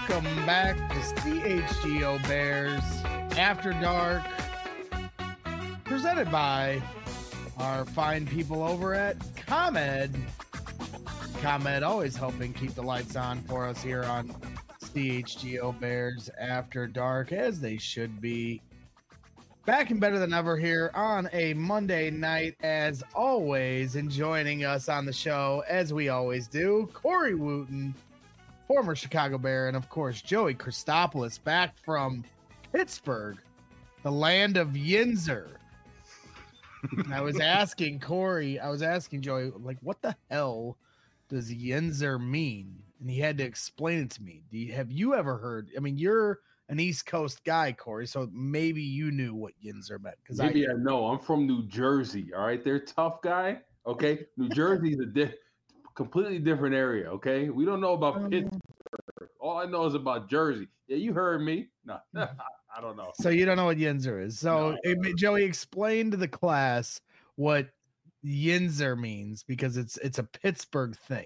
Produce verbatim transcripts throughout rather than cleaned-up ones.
Welcome back to C H G O Bears After Dark, presented by our fine people over at ComEd. ComEd always helping keep the lights on for us here on C H G O Bears After Dark, as they should be. Back and better than ever here on a Monday night, as always, and joining us on the show, as we always do, Corey Wooten, former Chicago Bear, and of course, Joey Christopoulos, back from Pittsburgh, the land of Yinzer. I was asking Corey, I was asking Joey, like, what the hell does Yinzer mean? And he had to explain it to me. Do you, have you ever heard? I mean, you're an East Coast guy, Corey, so maybe you knew what Yinzer meant. Because maybe I, I know. I'm from New Jersey. All right, they're tough guy. Okay, New Jersey is a di- completely different area. Okay, we don't know about um, Pittsburgh. All I know is about Jersey. Yeah, you heard me. No, I don't know. So you don't know what Yinzer is. So No. it, Joey explained to the class what Yinzer means, because it's it's a Pittsburgh thing.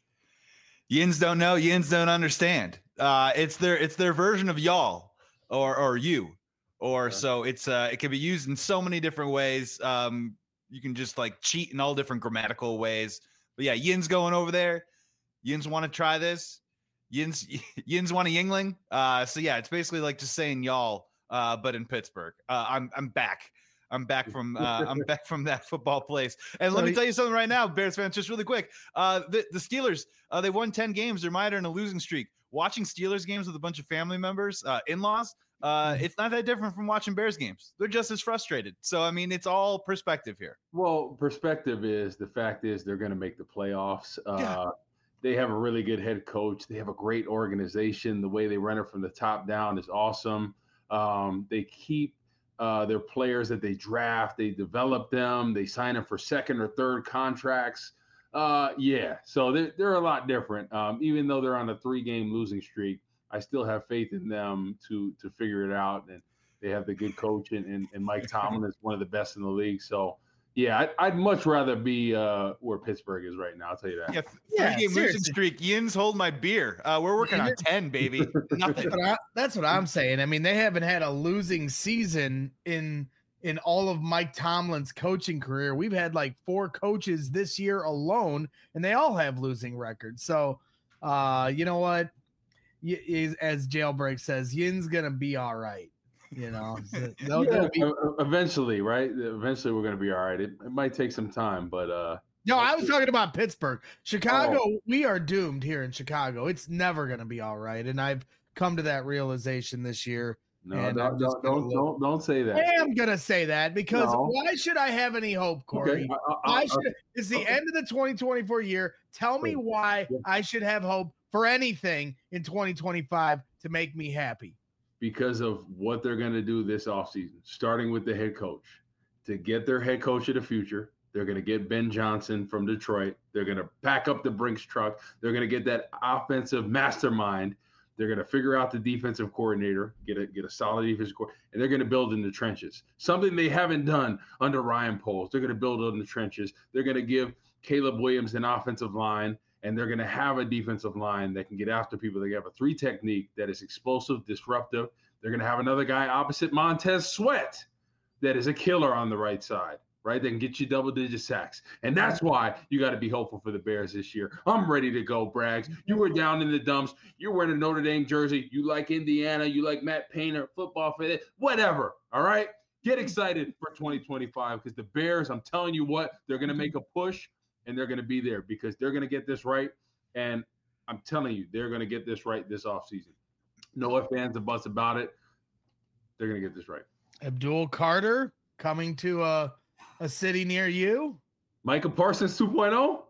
Yins don't know. Yins don't understand. Uh, it's their it's their version of y'all or or you or Yeah. so it's uh it can be used in so many different ways. Um, you can just like cheat in all different grammatical ways. But yeah, Yins going over there. Yins want to try this. Yins Yins want a Yingling. Uh, so yeah, it's basically like just saying y'all, uh, but in Pittsburgh. Uh, I'm I'm back. I'm back from uh, I'm back from that football place. And let me tell you something right now, Bears fans, just really quick. Uh, the, the Steelers, uh, they won ten games. They're mired in a losing streak. Watching Steelers games with a bunch of family members, uh, in-laws, uh, it's not that different from watching Bears games. They're just as frustrated. So, I mean, it's all perspective here. Well, perspective is the fact is they're going to make the playoffs. Uh, Yeah. They have a really good head coach. They have a great organization. The way they run it from the top down is awesome. Um, they keep uh, their players that they draft. They develop them. They sign them for second or third contracts. Uh, yeah, so they're, they're a lot different. Um, even though they're on a three-game losing streak, I still have faith in them to to figure it out. And they have the good coach, and, and, and Mike Tomlin is one of the best in the league. So, yeah, I'd, I'd much rather be uh, where Pittsburgh is right now. I'll tell you that. Yeah, Yeah, three-game losing seriously. streak. Yins hold my beer. Uh, we're working on ten, baby. Nothing. But I, that's what I'm saying. I mean, they haven't had a losing season in in all of Mike Tomlin's coaching career. We've had like four coaches this year alone, and they all have losing records. So, uh, you know what? Y- is- as Jailbreak says, Yin's gonna be all right. You know, So they'll- Yeah, they'll be- e- eventually, right? Eventually, we're going to be all right. It, it might take some time, but uh, no, I was talking about Pittsburgh. Chicago, Oh. we are doomed here in Chicago. It's never gonna be all right, and I've come to that realization this year. no, And I'm don't just don't gonna don't, look- don't don't say that. I am gonna say that because No. why should I have any hope, Corey? Okay, I- I- Why I- should it's the okay. end of the twenty twenty-four year? Tell me Sure. why Yeah. I should have hope for anything in twenty twenty-five to make me happy. because of what they're going to do this offseason, starting with the head coach. To get their head coach of the future, they're going to get Ben Johnson from Detroit. They're going to pack up the Brinks truck. They're going to get that offensive mastermind. They're going to figure out the defensive coordinator, get a get a solid defensive coordinator, and they're going to build in the trenches. Something they haven't done under Ryan Poles. They're going to build in the trenches. They're going to give Caleb Williams an offensive line, and they're going to have a defensive line that can get after people. They have a three technique that is explosive, disruptive. They're going to have another guy opposite Montez Sweat that is a killer on the right side, right? They can get you double-digit sacks. And that's why you got to be hopeful for the Bears this year. I'm ready to go, Braggs. You were down in the dumps. You're wearing a Notre Dame jersey. You like Indiana. You like Matt Painter, football for it, whatever, all right? Get excited for twenty twenty-five because the Bears, I'm telling you what, they're going to make a push, and they're going to be there because they're going to get this right. And I'm telling you, they're going to get this right this offseason. No ifs, ands, or buts about it. They're going to get this right. Abdul Carter coming to a a city near you. Micah Parsons two point oh.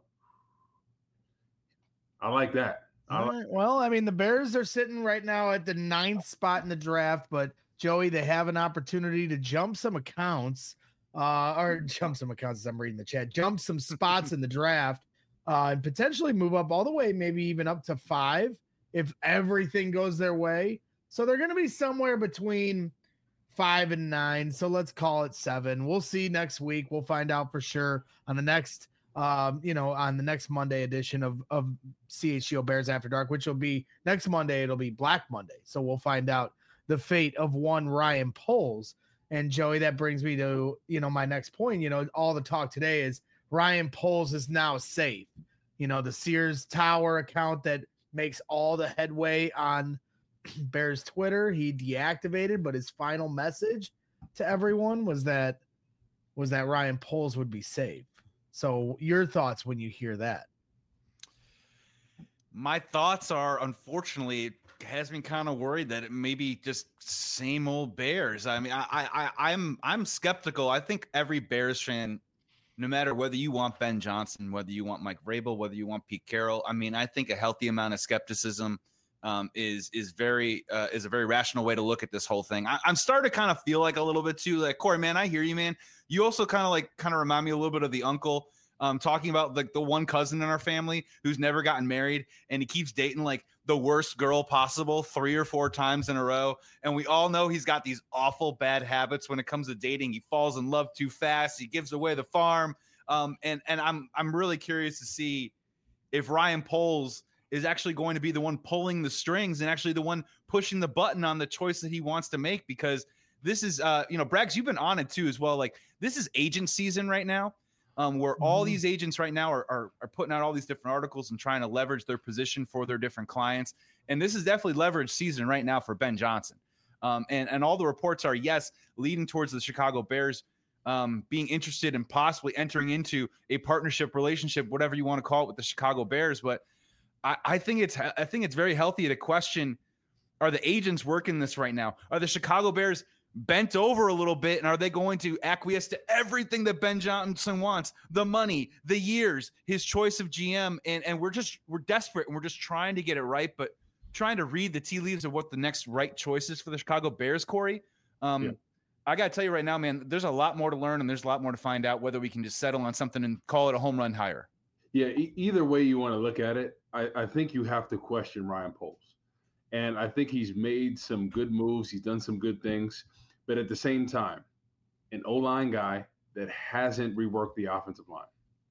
I like that. I All like, right. Well, I mean, the Bears are sitting right now at the ninth spot in the draft, but Joey, they have an opportunity to jump some accounts, uh, or jump some accounts as I'm reading the chat, jump some spots in the draft, uh, and potentially move up all the way, maybe even up to five if everything goes their way. So they're going to be somewhere between five and nine. So let's call it seven. We'll see next week. We'll find out for sure on the next um, you know, on the next Monday edition of, of C H G O Bears After Dark, which will be next Monday. It'll be Black Monday. So we'll find out the fate of one Ryan Poles. And Joey, that brings me to, you know, my next point. You know, all the talk today is Ryan Poles is now safe. You know, the Sears Tower account that makes all the headway on Bears Twitter, he deactivated, but his final message to everyone was that was that Ryan Poles would be safe. So your thoughts when you hear that? My thoughts are, unfortunately, it has me kind of worried that it may be just same old Bears. I mean, I, I, I'm, I'm skeptical. I think every Bears fan, no matter whether you want Ben Johnson, whether you want Mike Vrabel, whether you want Pete Carroll, I mean, I think a healthy amount of skepticism um, is is very uh, is a very rational way to look at this whole thing. I, I'm starting to kind of feel like a little bit too, like, Corey, man, I hear you, man. You also kind of like kind of remind me a little bit of the uncle. Um, talking about like the one cousin in our family who's never gotten married and he keeps dating like the worst girl possible three or four times in a row. And we all know he's got these awful bad habits when it comes to dating. He falls in love too fast. He gives away the farm. Um, and, and I'm, I'm really curious to see if Ryan Poles is actually going to be the one pulling the strings and actually the one pushing the button on the choice that he wants to make, because this is, uh, you know, Braggs, you've been on it too as well. Like, this is agent season right now. Um, where all these agents right now are, are are putting out all these different articles and trying to leverage their position for their different clients. And this is definitely leverage season right now for Ben Johnson. Um, and, and all the reports are, yes, leading towards the Chicago Bears um, being interested in possibly entering into a partnership relationship, whatever you want to call it, with the Chicago Bears. But I, I think it's I think it's very healthy to question, are the agents working this right now? Are the Chicago Bears bent over a little bit, and are they going to acquiesce to everything that Ben Johnson wants? The money, the years, his choice of G M, and and we're just we're desperate and we're just trying to get it right, but trying to read the tea leaves of what the next right choice is for the Chicago Bears, Corey. Um, yeah. I got to tell you right now, man, there's a lot more to learn and there's a lot more to find out whether we can just settle on something and call it a home run hire. Yeah, e- either way you want to look at it, I, I think you have to question Ryan Poles. And I think he's made some good moves. He's done some good things. But at the same time, an O-line guy that hasn't reworked the offensive line.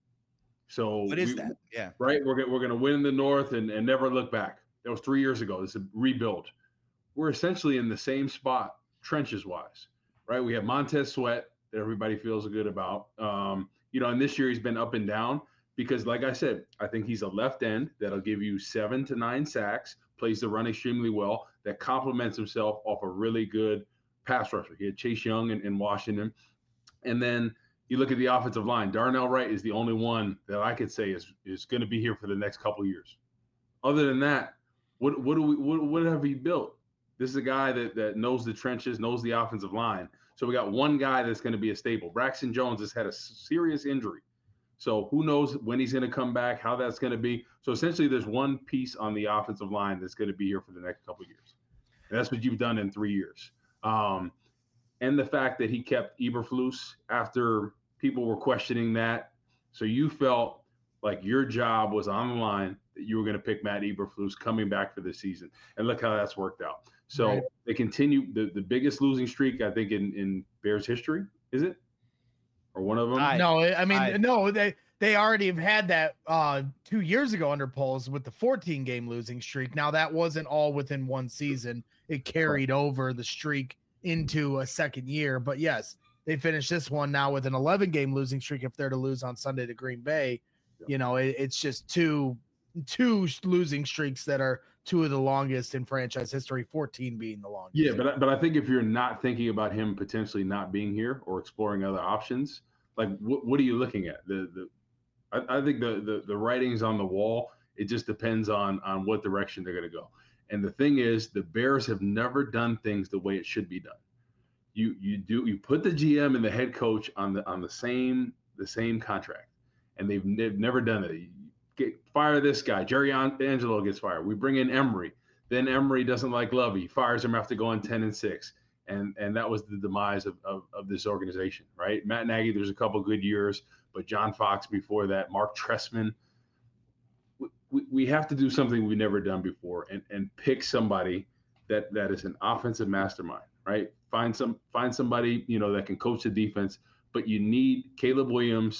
So what is we, that? Yeah. Right. We're, we're going to win in the North and, and never look back. That was three years ago. It's a rebuild. We're essentially in the same spot, trenches wise, right? We have Montez Sweat that everybody feels good about. Um, you know, and this year he's been up and down because, like I said, I think he's a left end that'll give you seven to nine sacks, plays the run extremely well, that complements himself off a really good pass rusher. He had Chase Young in, in Washington. And then you look at the offensive line. Darnell Wright is the only one that I could say is is going to be here for the next couple of years. Other than that, what what do we what, what have we built? This is a guy that that knows the trenches, knows the offensive line. So we got one guy that's going to be a staple. Braxton Jones has had a serious injury. So who knows when he's going to come back, how that's going to be. So essentially there's one piece on the offensive line that's going to be here for the next couple of years. And that's what you've done in three years. Um, and the fact that he kept Eberflus after people were questioning that. So you felt like your job was on the line, that you were going to pick Matt Eberflus coming back for this season. And look how that's worked out. So right. They continue the, the biggest losing streak, I think, in, in Bears history, is it? Or one of them? I, no, I mean, I, no, they, they already have had that uh, two years ago under Poles with the fourteen game losing streak. Now that wasn't all within one season. It carried over the streak into a second year. But yes, they finished this one now with an eleven game losing streak. If they're to lose on Sunday to Green Bay, yeah. you know, it, it's just two, two losing streaks that are two of the longest in franchise history, fourteen being the longest. Yeah. But, but I think if you're not thinking about him potentially not being here or exploring other options, like what, what are you looking at? The, the, I, I think the, the, the writing's on the wall. It just depends on, on what direction they're going to go. And the thing is, the Bears have never done things the way it should be done. You you do you put the G M and the head coach on the on the same the same contract, and they've, they've never done it. You get fire this guy, Jerry Angelo gets fired. We bring in Emery, then Emery doesn't like Lovey, fires him after going ten and six, and and that was the demise of, of of this organization, right? Matt Nagy, there's a couple good years, but John Fox before that, Mark Trestman. We, we have to do something we've never done before and, and pick somebody that, that is an offensive mastermind, right? Find some find somebody, you know, that can coach the defense, but you need Caleb Williams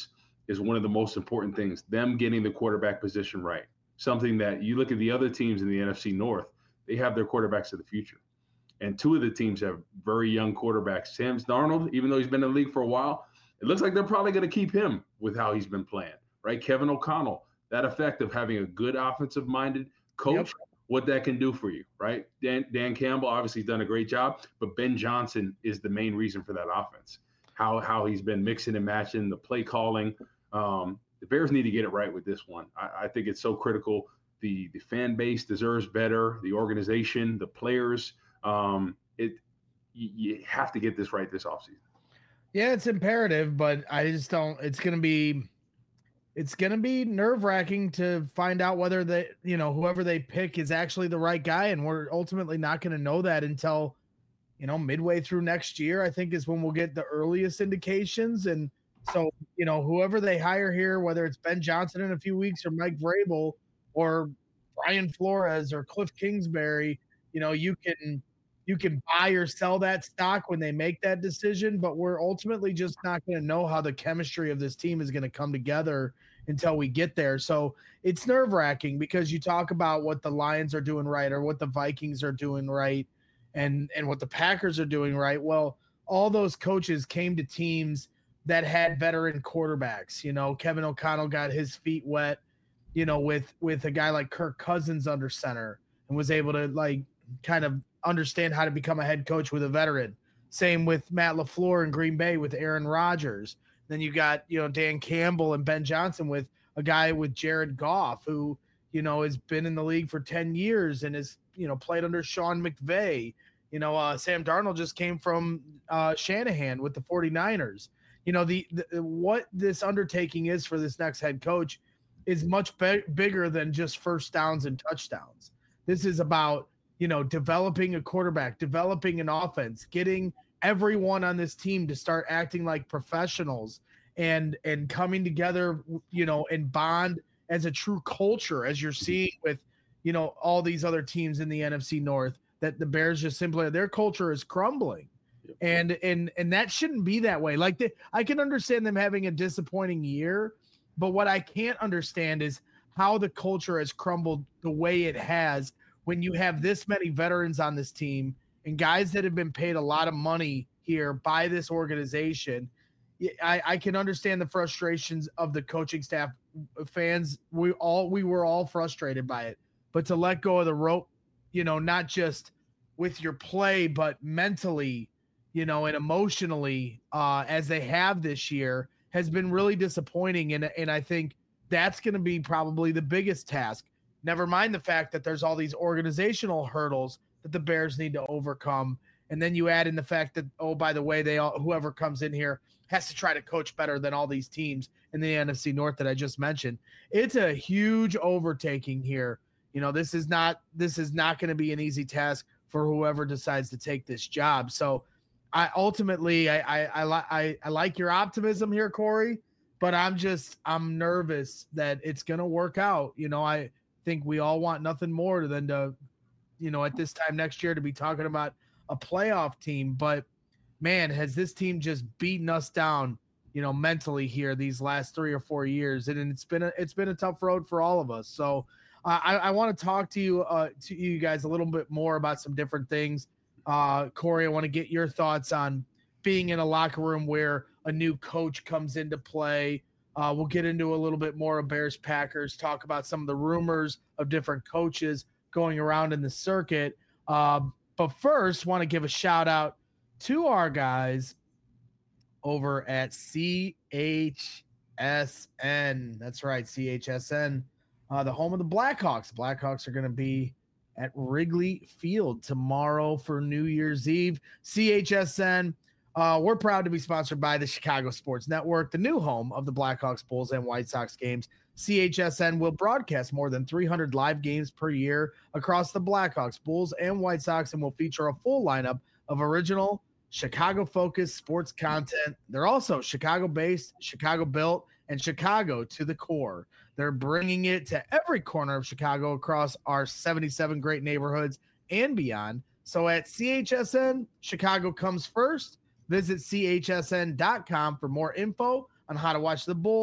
is one of the most important things, them getting the quarterback position right. Something that you look at the other teams in the N F C North, they have their quarterbacks of the future. And two of the teams have very young quarterbacks. Sam Darnold, even though he's been in the league for a while, it looks like they're probably going to keep him with how he's been playing, right? Kevin O'Connell, that effect of having a good offensive-minded coach, yep. what that can do for you, right? Dan, Dan Campbell obviously done a great job, but Ben Johnson is the main reason for that offense. How how he's been mixing and matching the play calling. Um, the Bears need to get it right with this one. I, I think it's so critical. The the fan base deserves better. The organization, the players. Um, it you, you have to get this right this offseason. Yeah, it's imperative, but I just don't. It's gonna be, it's gonna be nerve wracking to find out whether they, you know, whoever they pick is actually the right guy, and we're ultimately not gonna know that until, you know, midway through next year. I think is when we'll get the earliest indications, and so you know, whoever they hire here, whether it's Ben Johnson in a few weeks or Mike Vrabel or Brian Flores or Cliff Kingsbury, you know, you can. You can buy or sell that stock when they make that decision, but we're ultimately just not going to know how the chemistry of this team is going to come together until we get there. So it's nerve wracking because you talk about what the Lions are doing right or what the Vikings are doing right and, and what the Packers are doing right. Well, all those coaches came to teams that had veteran quarterbacks. You know, Kevin O'Connell got his feet wet, you know, with, with a guy like Kirk Cousins under center and was able to like kind of understand how to become a head coach with a veteran. Same with Matt LaFleur in Green Bay with Aaron Rodgers. Then you got, you know, Dan Campbell and Ben Johnson with a guy with Jared Goff, who, you know, has been in the league for ten years and has, you know, played under Sean McVay. You know, uh, Sam Darnold just came from uh, Shanahan with the 49ers. You know, the, the what this undertaking is for this next head coach is much be- bigger than just first downs and touchdowns. This is about, you know, developing a quarterback, developing an offense, getting everyone on this team to start acting like professionals and and coming together, you know, and bond as a true culture, as you're seeing with, you know, all these other teams in the N F C North, that the Bears just simply, their culture is crumbling. Yep. And and and that shouldn't be that way. Like, the, I can understand them having a disappointing year, but what I can't understand is how the culture has crumbled the way it has when you have this many veterans on this team and guys that have been paid a lot of money here by this organization. I, I can understand the frustrations of the coaching staff, fans. We all, we were all frustrated by it, but to let go of the rope, you know, not just with your play, but mentally, you know, and emotionally, uh, as they have this year, has been really disappointing. And, and I think that's going to be probably the biggest task. Never mind the fact that there's all these organizational hurdles that the Bears need to overcome. And then you add in the fact that, oh, by the way, they all, whoever comes in here has to try to coach better than all these teams in the N F C North that I just mentioned. It's a huge overtaking here. You know, this is not, this is not going to be an easy task for whoever decides to take this job. So I ultimately, I, I, I, I, I like your optimism here, Corey, but I'm just, I'm nervous that it's going to work out. You know, I, think we all want nothing more than to, you know, at this time next year to be talking about a playoff team. But man, has this team just beaten us down, you know, mentally here these last three or four years, and it's been a, it's been a tough road for all of us. So uh, I, I want to talk to you uh, to you guys a little bit more about some different things. Uh, Corey, I want to get your thoughts on being in a locker room where a new coach comes into play. Uh, we'll get into a little bit more of Bears Packers, talk about some of the rumors of different coaches going around in the circuit. Uh, but first, want to give a shout out to our guys over at C H S N. That's right, C H S N, uh, the home of the Blackhawks. Blackhawks are going to be at Wrigley Field tomorrow for New Year's Eve. C H S N. Uh, we're proud to be sponsored by the Chicago Sports Network, the new home of the Blackhawks, Bulls, and White Sox games. C H S N will broadcast more than three hundred live games per year across the Blackhawks, Bulls, and White Sox, and will feature a full lineup of original Chicago-focused sports content. They're also Chicago-based, Chicago-built, and Chicago to the core. They're bringing it to every corner of Chicago across our seventy-seven great neighborhoods and beyond. So at C H S N, Chicago comes first. Visit C H S N dot com for more info on how to watch the Bulls,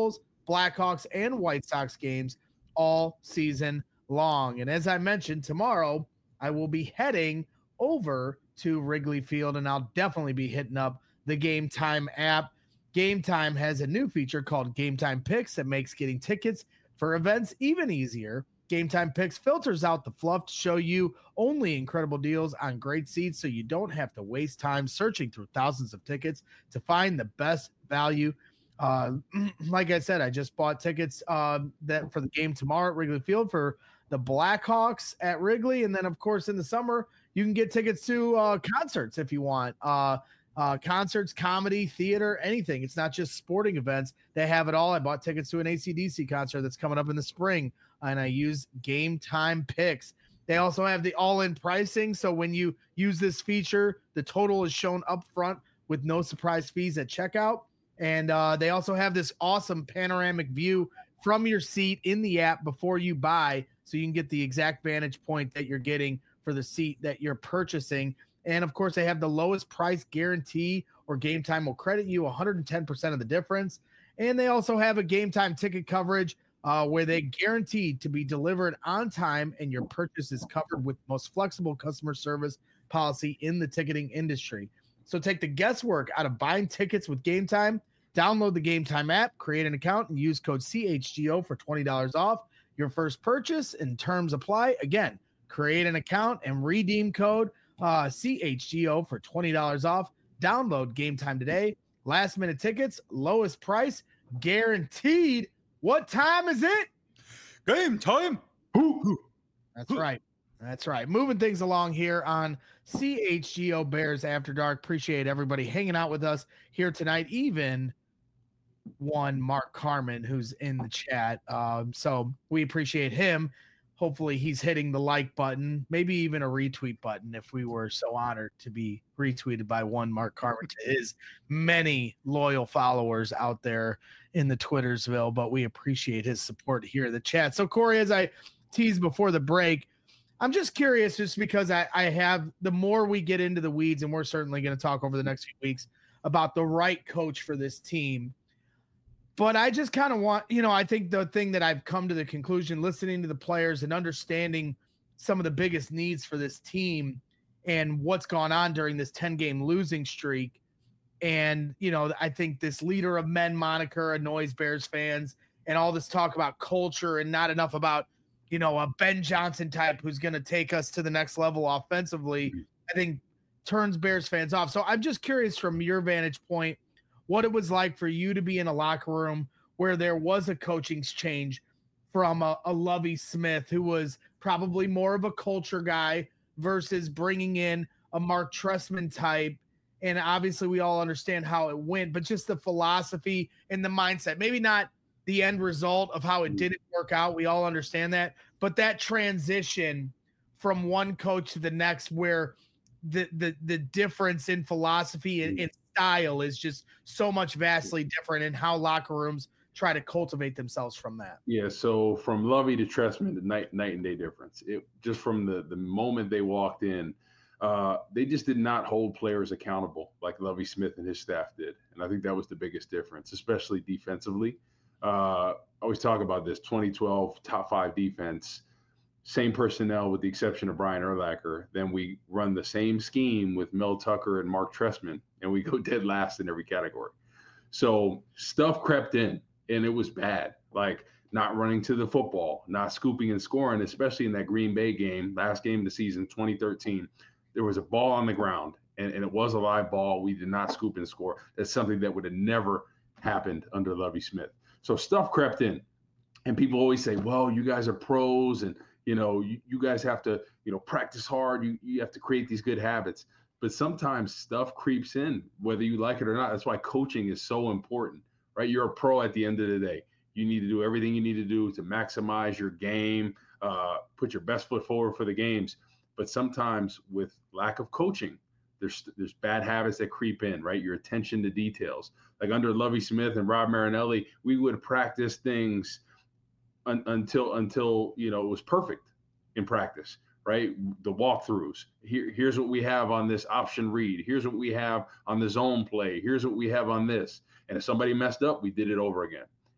Blackhawks, and White Sox games all season long. And as I mentioned, tomorrow I will be heading over to Wrigley Field, and I'll definitely be hitting up the Game Time app. Game Time has a new feature called Game Time Picks that makes getting tickets for events even easier. Game Time Picks filters out the fluff to show you only incredible deals on great seats, so you don't have to waste time searching through thousands of tickets to find the best value. Uh, like I said, I just bought tickets um, that for the game tomorrow at Wrigley Field for the Blackhawks at Wrigley, and then of course in the summer you can get tickets to uh, concerts if you want. Uh, uh, concerts, comedy, theater, anything. It's not just sporting events. They have it all. I bought tickets to an A C D C concert that's coming up in the spring, and I use Game Time Picks. They also have the all-in pricing, so when you use this feature, the total is shown up front with no surprise fees at checkout. And uh, they also have this awesome panoramic view from your seat in the app before you buy, so you can get the exact vantage point that you're getting for the seat that you're purchasing. And of course, they have the lowest price guarantee, or Game Time will credit you one hundred ten percent of the difference. And they also have a Game Time ticket coverage uh, where they guaranteed to be delivered on time, and your purchase is covered with the most flexible customer service policy in the ticketing industry. So take the guesswork out of buying tickets with Game Time. Download the Game Time app, create an account, and use code C H G O for twenty dollars off your first purchase, and terms apply. Again, create an account and redeem code uh, C H G O for twenty dollars off. Download Game Time today. Last minute tickets, lowest price, guaranteed. What time is it? Game time. That's right. That's right. Moving things along here on C H G O Bears After Dark. Appreciate everybody hanging out with us here tonight. Even one Mark Carmen who's in the chat. Um, so we appreciate him. Hopefully he's hitting the like button, maybe even a retweet button if we were so honored to be retweeted by one Mark Carmen to his many loyal followers out there in the Twittersville. But we appreciate his support here in the chat. So Corey, as I teased before the break, I'm just curious, just because I, I have, the more we get into the weeds, and we're certainly going to talk over the next few weeks about the right coach for this team. But I just kind of want, you know, I think the thing that I've come to the conclusion, listening to the players and understanding some of the biggest needs for this team and what's gone on during this ten game losing streak. And, you know, I think this leader of men moniker annoys Bears fans, and all this talk about culture and not enough about, you know, a Ben Johnson type who's going to take us to the next level offensively, I think turns Bears fans off. So I'm just curious from your vantage point, what it was like for you to be in a locker room where there was a coaching change from a, a Lovie Smith, who was probably more of a culture guy, versus bringing in a Mark Trestman type. And obviously we all understand how it went, but just the philosophy and the mindset, maybe not the end result of how it didn't work out. We all understand that, but that transition from one coach to the next, where the, the, the difference in philosophy and, and style is just so much vastly different, in how locker rooms try to cultivate themselves from that. Yeah. So from Lovie to Trestman, the night, night and day difference. It just from the, the moment they walked in, uh, they just did not hold players accountable like Lovie Smith and his staff did. And I think that was the biggest difference, especially defensively. Uh, I always talk about this twenty twelve top five defense, same personnel with the exception of Brian Urlacher. Then we run the same scheme with Mel Tucker and Mark Trestman, and we go dead last in every category. So stuff crept in, and it was bad. Like not running to the football, not scooping and scoring, especially in that Green Bay game, last game of the season, twenty thirteen. There was a ball on the ground, and, and it was a live ball. We did not scoop and score. That's something that would have never happened under Lovie Smith. So stuff crept in, and people always say, well, you guys are pros, and, you know, you, you guys have to, you know, practice hard. You, you have to create these good habits. But sometimes stuff creeps in, whether you like it or not. That's why coaching is so important, right? You're a pro at the end of the day. You need to do everything you need to do to maximize your game, uh, put your best foot forward for the games. But sometimes with lack of coaching, There's there's bad habits that creep in, right? Your attention to details. Like under Lovie Smith and Rob Marinelli, we would practice things un, until until you know it was perfect in practice, right? The walkthroughs. Here here's what we have on this option read. Here's what we have on the zone play. Here's what we have on this. And if somebody messed up, we did it over again.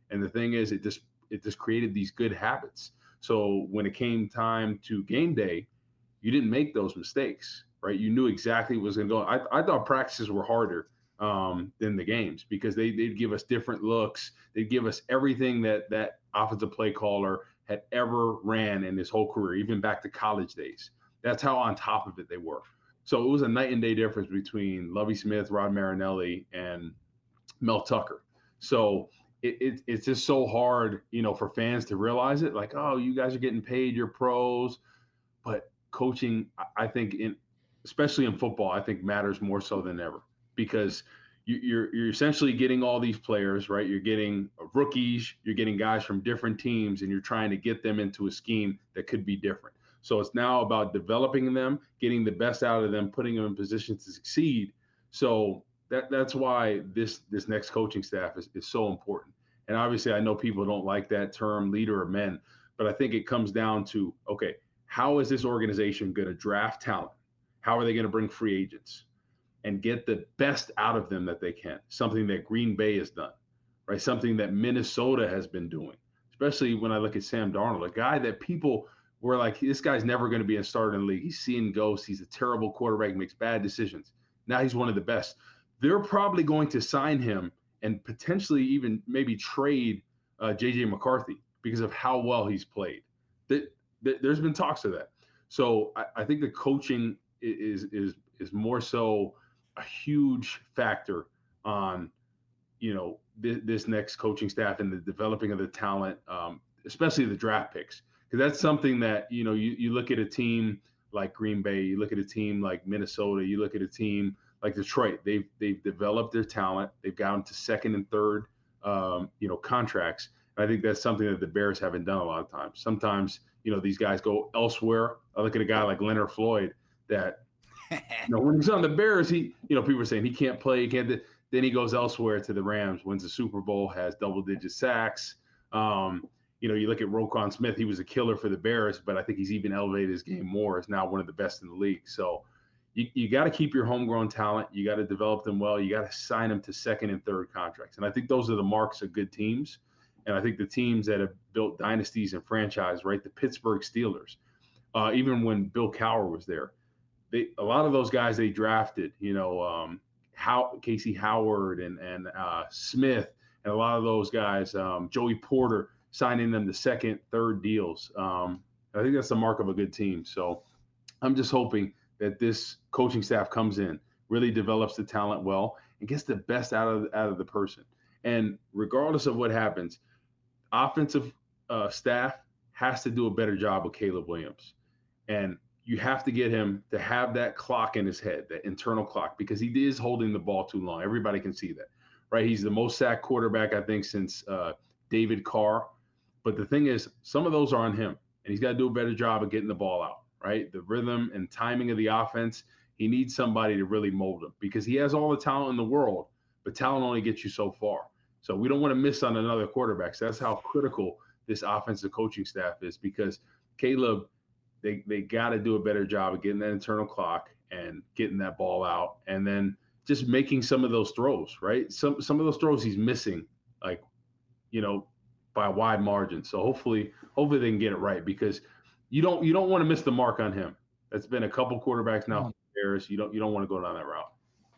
And the thing is, it just it just created these good habits. So when it came time to game day, you didn't make those mistakes, right? You knew exactly what was going to go. I, I thought practices were harder um, than the games because they, they'd give us different looks. They'd give us everything that that offensive play caller had ever ran in his whole career, even back to college days. That's how on top of it they were. So it was a night and day difference between Lovie Smith, Rod Marinelli, and Mel Tucker. So it, it, it's just so hard, you know, for fans to realize it. Like, oh, you guys are getting paid, you're pros. But coaching, I think, in especially in football, I think matters more so than ever because you, you're you're essentially getting all these players, right? You're getting rookies, you're getting guys from different teams, and you're trying to get them into a scheme that could be different. So it's now about developing them, getting the best out of them, putting them in positions to succeed. So that that's why this this next coaching staff is, is so important. And obviously, I know people don't like that term, leader of men, but I think it comes down to, okay, how is this organization going to draft talent? How are they going to bring free agents and get the best out of them that they can? Something that Green Bay has done, right? Something that Minnesota has been doing, especially when I look at Sam Darnold, a guy that people were like, this guy's never going to be a starter in the league. He's seeing ghosts. He's a terrible quarterback, makes bad decisions. Now he's one of the best. They're probably going to sign him and potentially even maybe trade uh, J J McCarthy because of how well he's played. That, that there's been talks of that. So I, I think the coaching is is is more so a huge factor on, you know, th- this next coaching staff and the developing of the talent, um, especially the draft picks. Because that's something that, you know, you, you look at a team like Green Bay, you look at a team like Minnesota, you look at a team like Detroit. They've they've developed their talent. They've gotten to second and third, um, you know, contracts. And I think that's something that the Bears haven't done a lot of times. Sometimes, you know, these guys go elsewhere. I look at a guy like Leonard Floyd that, you know, when he's on the Bears, he, you know, people are saying he can't play, he can't. Then he goes elsewhere to the Rams, wins the Super Bowl, has double-digit sacks. Um, you know, you look at Roquan Smith, he was a killer for the Bears, but I think he's even elevated his game more, is now one of the best in the league. So you, you got to keep your homegrown talent. You got to develop them well. You got to sign them to second and third contracts. And I think those are the marks of good teams. And I think the teams that have built dynasties and franchise, right, the Pittsburgh Steelers, uh, even when Bill Cowher was there, they a lot of those guys they drafted, you know, um, How, Casey Howard and, and uh, Smith, and a lot of those guys, um, Joey Porter, signing them to second, third deals. Um, I think that's the mark of a good team. So I'm just hoping that this coaching staff comes in, really develops the talent well, and gets the best out of out of the person. And regardless of what happens, offensive uh, staff has to do a better job with Caleb Williams. And you have to get him to have that clock in his head, that internal clock, because he is holding the ball too long. Everybody can see that, right? He's the most sacked quarterback, I think, since uh, David Carr. But the thing is, some of those are on him, and he's got to do a better job of getting the ball out, right? The rhythm and timing of the offense, he needs somebody to really mold him because he has all the talent in the world, but talent only gets you so far. So we don't want to miss on another quarterback. So that's how critical this offensive coaching staff is, because Caleb, they, they got to do a better job of getting that internal clock and getting that ball out, and then just making some of those throws, right? Some some of those throws he's missing, like, you know, by a wide margin. So hopefully, hopefully they can get it right, because you don't you don't want to miss the mark on him. That's been a couple quarterbacks now. Bears, you don't you don't want to go down that route.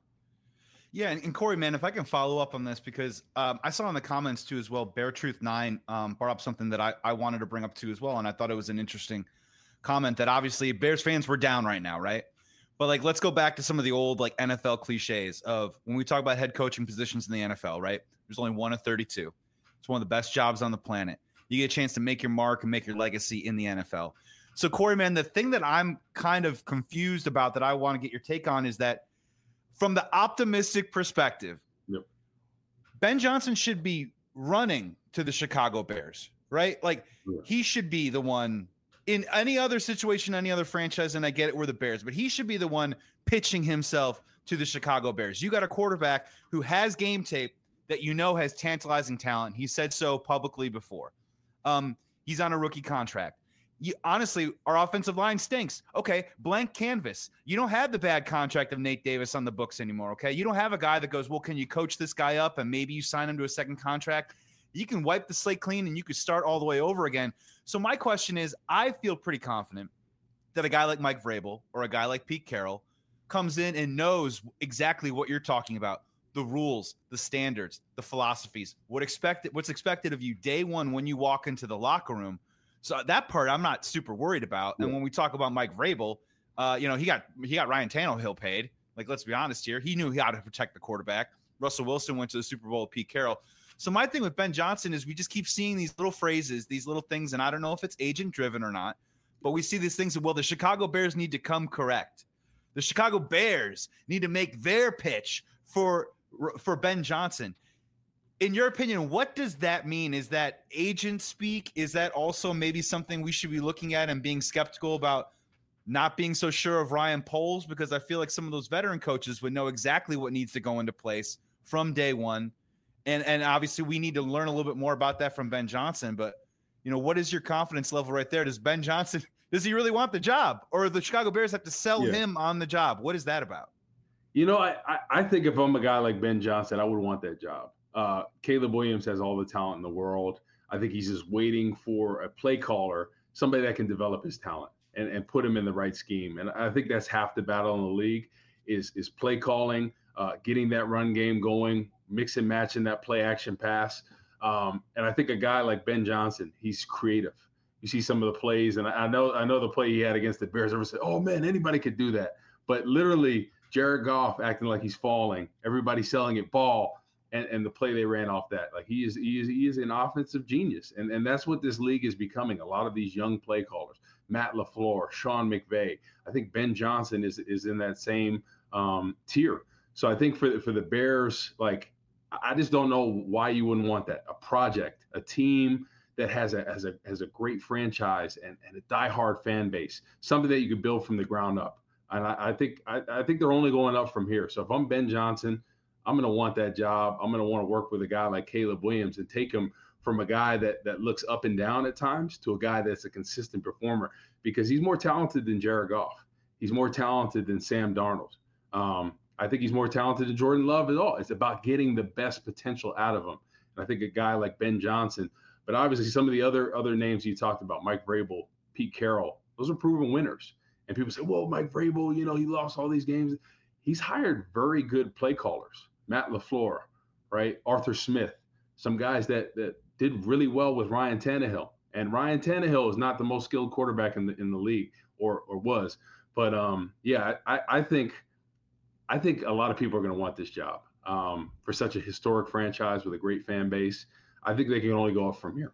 Yeah, and, and Corey, man, if I can follow up on this, because um, I saw in the comments too as well, Bear Truth nine um, brought up something that I, I wanted to bring up too as well, and I thought it was an interesting comment that obviously Bears fans were down right now, right? But like, let's go back to some of the old like N F L cliches of when we talk about head coaching positions in the N F L, right? There's only one of thirty-two. It's one of the best jobs on the planet. You get a chance to make your mark and make your legacy in the N F L. So, Corey, man, the thing that I'm kind of confused about that I want to get your take on is that from the optimistic perspective, yep, Ben Johnson should be running to the Chicago Bears, right? Like yeah. He should be the one in any other situation, any other franchise, and I get it, we're the Bears, but he should be the one pitching himself to the Chicago Bears. You got a quarterback who has game tape that you know has tantalizing talent. He said so publicly before. Um, he's on a rookie contract. You, honestly, our offensive line stinks. Okay, blank canvas. You don't have the bad contract of Nate Davis on the books anymore, okay? You don't have a guy that goes, well, can you coach this guy up and maybe you sign him to a second contract? You can wipe the slate clean and you could start all the way over again. So my question is, I feel pretty confident that a guy like Mike Vrabel or a guy like Pete Carroll comes in and knows exactly what you're talking about. The rules, the standards, the philosophies, what expected, what's expected of you day one when you walk into the locker room. So that part I'm not super worried about. And when we talk about Mike Vrabel, uh, you know, he got he got Ryan Tannehill paid. Like, let's be honest here. He knew how to protect the quarterback. Russell Wilson went to the Super Bowl with Pete Carroll. So my thing with Ben Johnson is we just keep seeing these little phrases, these little things, and I don't know if it's agent driven or not, but we see these things that, well, the Chicago Bears need to come correct. The Chicago Bears need to make their pitch for for Ben Johnson. In your opinion, what does that mean? Is that agent speak? Is that also maybe something we should be looking at and being skeptical about, not being so sure of Ryan Poles? Because I feel like some of those veteran coaches would know exactly what needs to go into place from day one. And and obviously we need to learn a little bit more about that from Ben Johnson. But, you know, what is your confidence level right there? Does Ben Johnson, does he really want the job? Or the Chicago Bears have to sell Yeah. him on the job? What is that about? You know, I, I, I think if I'm a guy like Ben Johnson, I would want that job. Uh, Caleb Williams has all the talent in the world. I think he's just waiting for a play caller, somebody that can develop his talent and, and put him in the right scheme. And I think that's half the battle in the league is, is play calling, uh, getting that run game going, mix and matching that play action pass. Um, and I think a guy like Ben Johnson, he's creative. You see some of the plays, and I know I know the play he had against the Bears. Everyone said, "Oh man, anybody could do that." But literally, Jared Goff acting like he's falling, everybody selling it ball, and, and the play they ran off that. Like he is he is he is an offensive genius, and and that's what this league is becoming. A lot of these young play callers, Matt LaFleur, Sean McVay. I think Ben Johnson is is in that same um, tier. So I think for for the Bears, like I just don't know why you wouldn't want that. A project, a team that has a has a has a great franchise and, and a diehard fan base, something that you could build from the ground up. And I, I think I, I think they're only going up from here. So if I'm Ben Johnson, I'm going to want that job. I'm going to want to work with a guy like Caleb Williams and take him from a guy that that looks up and down at times to a guy that's a consistent performer, because he's more talented than Jared Goff. He's more talented than Sam Darnold. Um, I think he's more talented than Jordan Love at all. It's about getting the best potential out of him. And I think a guy like Ben Johnson, but obviously some of the other other names you talked about, Mike Vrabel, Pete Carroll, those are proven winners. And people say, well, Mike Vrabel, you know, he lost all these games. He's hired very good play callers, Matt LaFleur, right? Arthur Smith, some guys that that did really well with Ryan Tannehill. And Ryan Tannehill is not the most skilled quarterback in the in the league, or or was. But um, yeah, I, I think I think a lot of people are going to want this job um, for such a historic franchise with a great fan base. I think they can only go up from here.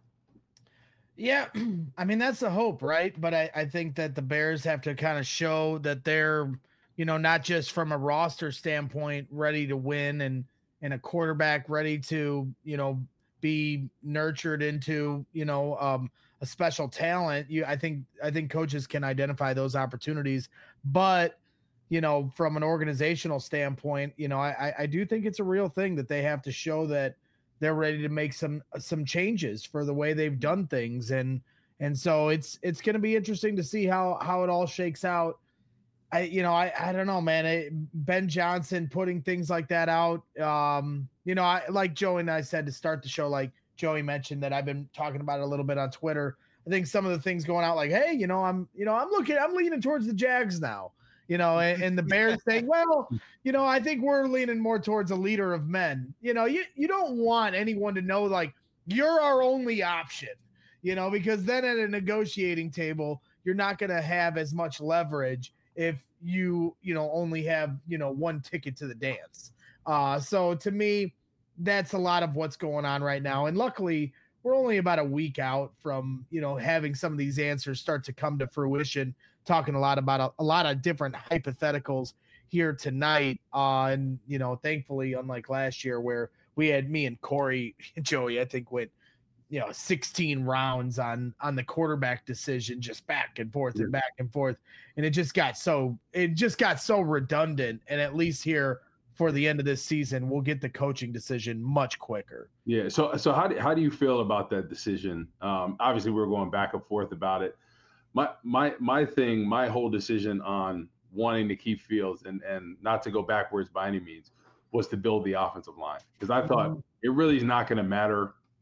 Yeah, I mean, that's the hope, right? But I, I think that the Bears have to kind of show that they're, you know, not just from a roster standpoint, ready to win and and a quarterback ready to, you know, be nurtured into, you know, um, a special talent. You, I think, I think coaches can identify those opportunities, but, you know, from an organizational standpoint, you know, I, I do think it's a real thing that they have to show that they're ready to make some some changes for the way they've done things. And and so it's it's going to be interesting to see how how it all shakes out. I you know, I I don't know, man. I, Ben Johnson putting things like that out. Um, you know, I like Joey and I said to start the show, like Joey mentioned that I've been talking about it a little bit on Twitter. I think some of the things going out like, hey, you know, I'm you know, I'm looking I'm leaning towards the Jags now. You know, and, and the Bears saying, well, you know, I think we're leaning more towards a leader of men. You know, you, you don't want anyone to know, like, you're our only option, you know, because then at a negotiating table, you're not going to have as much leverage if you, you know, only have, you know, one ticket to the dance. Uh, so to me, that's a lot of what's going on right now. And luckily, we're only about a week out from, you know, having some of these answers start to come to fruition. Talking a lot about a, a lot of different hypotheticals here tonight. Uh, and, you know, thankfully, unlike last year where we had me and Corey, Joey, I think went, you know, sixteen rounds on, on the quarterback decision, just back and forth and back and forth. And it just got so, it just got so redundant. And at least here for the end of this season, we'll get the coaching decision much quicker. Yeah. So, so how do, how do you feel about that decision? Um, obviously we're going back and forth about it. My my my thing, my whole decision on wanting to keep Fields and, and not to go backwards by any means was to build the offensive line, because I thought mm-hmm. it really is not going to matter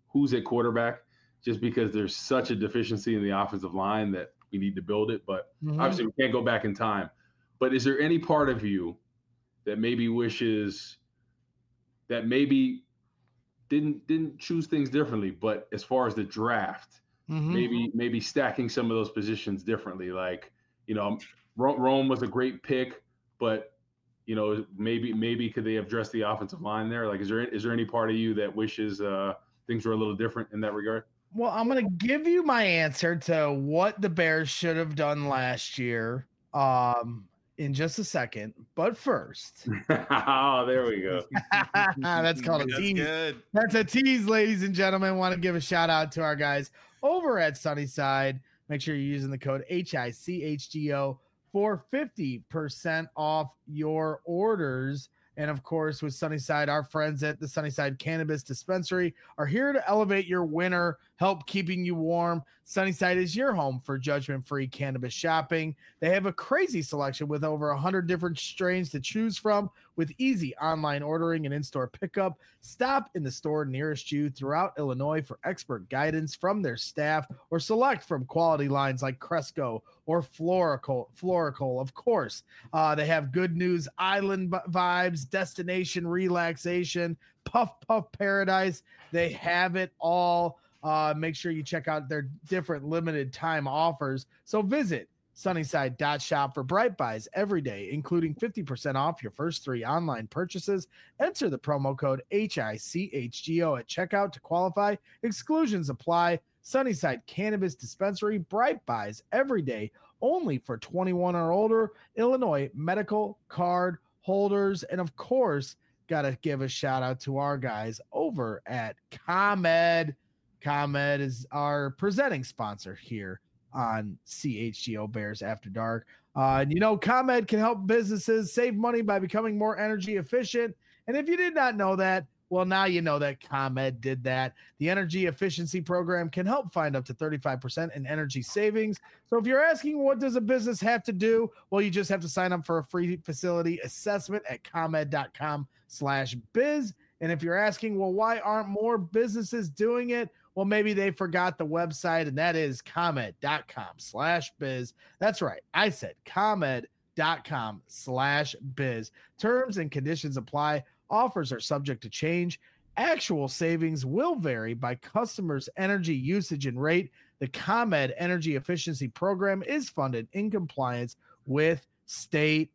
who's at quarterback, just because there's such a deficiency in the offensive line that we need to build it. But Mhm. obviously we can't go back in time. But is there any part of you that maybe wishes that maybe didn't didn't choose things differently, but as far as the draft, Mhm. maybe maybe stacking some of those positions differently? Like, you know, Ro- Rome was a great pick, but you know, maybe maybe could they have addressed the offensive line there? Like, is there is there any part of you that wishes uh, things were a little different in that regard? Well, I'm gonna give you my answer to what the Bears should have done last year, um, in just a second. But first, Oh, there we go. that's called a That's tease. good. That's a tease, ladies and gentlemen. Want to give a shout out to our guys over at Sunnyside. Make sure you're using the code H I C H G O for fifty percent off your orders. And of course, with Sunnyside, our friends at the Sunnyside Cannabis Dispensary are here to elevate your winter, help keeping you warm. Sunnyside is your home for judgment-free cannabis shopping. They have a crazy selection with over one hundred different strains to choose from, with easy online ordering and in-store pickup. Stop in the store nearest you throughout Illinois for expert guidance from their staff, or select from quality lines like Cresco or Florical. Florical, of course. Uh, they have Good News Island b- vibes, destination relaxation, Puff Puff Paradise. They have it all. Uh, make sure you check out their different limited time offers. So visit Sunnyside dot shop for Bright Buys every day, including fifty percent off your first three online purchases. Enter the promo code H I C H G O at checkout to qualify. Exclusions apply. Sunnyside Cannabis Dispensary, Bright Buys every day, only for twenty-one or older Illinois medical card holders. And of course, got to give a shout out to our guys over at ComEd. ComEd is our presenting sponsor here on C H G O Bears After Dark. Uh, and you know, ComEd can help businesses save money by becoming more energy efficient. And if you did not know that, well, now you know that ComEd did that. The energy efficiency program can help find up to thirty-five percent in energy savings. So if you're asking what does a business have to do, well, you just have to sign up for a free facility assessment at comed dot com slash biz. And if you're asking, well, why aren't more businesses doing it? Well, maybe they forgot the website, and that is comed dot com slash biz. That's right. I said comed dot com slash biz. Terms and conditions apply. Offers are subject to change. Actual savings will vary by customers' energy usage and rate. The ComEd Energy Efficiency Program is funded in compliance with state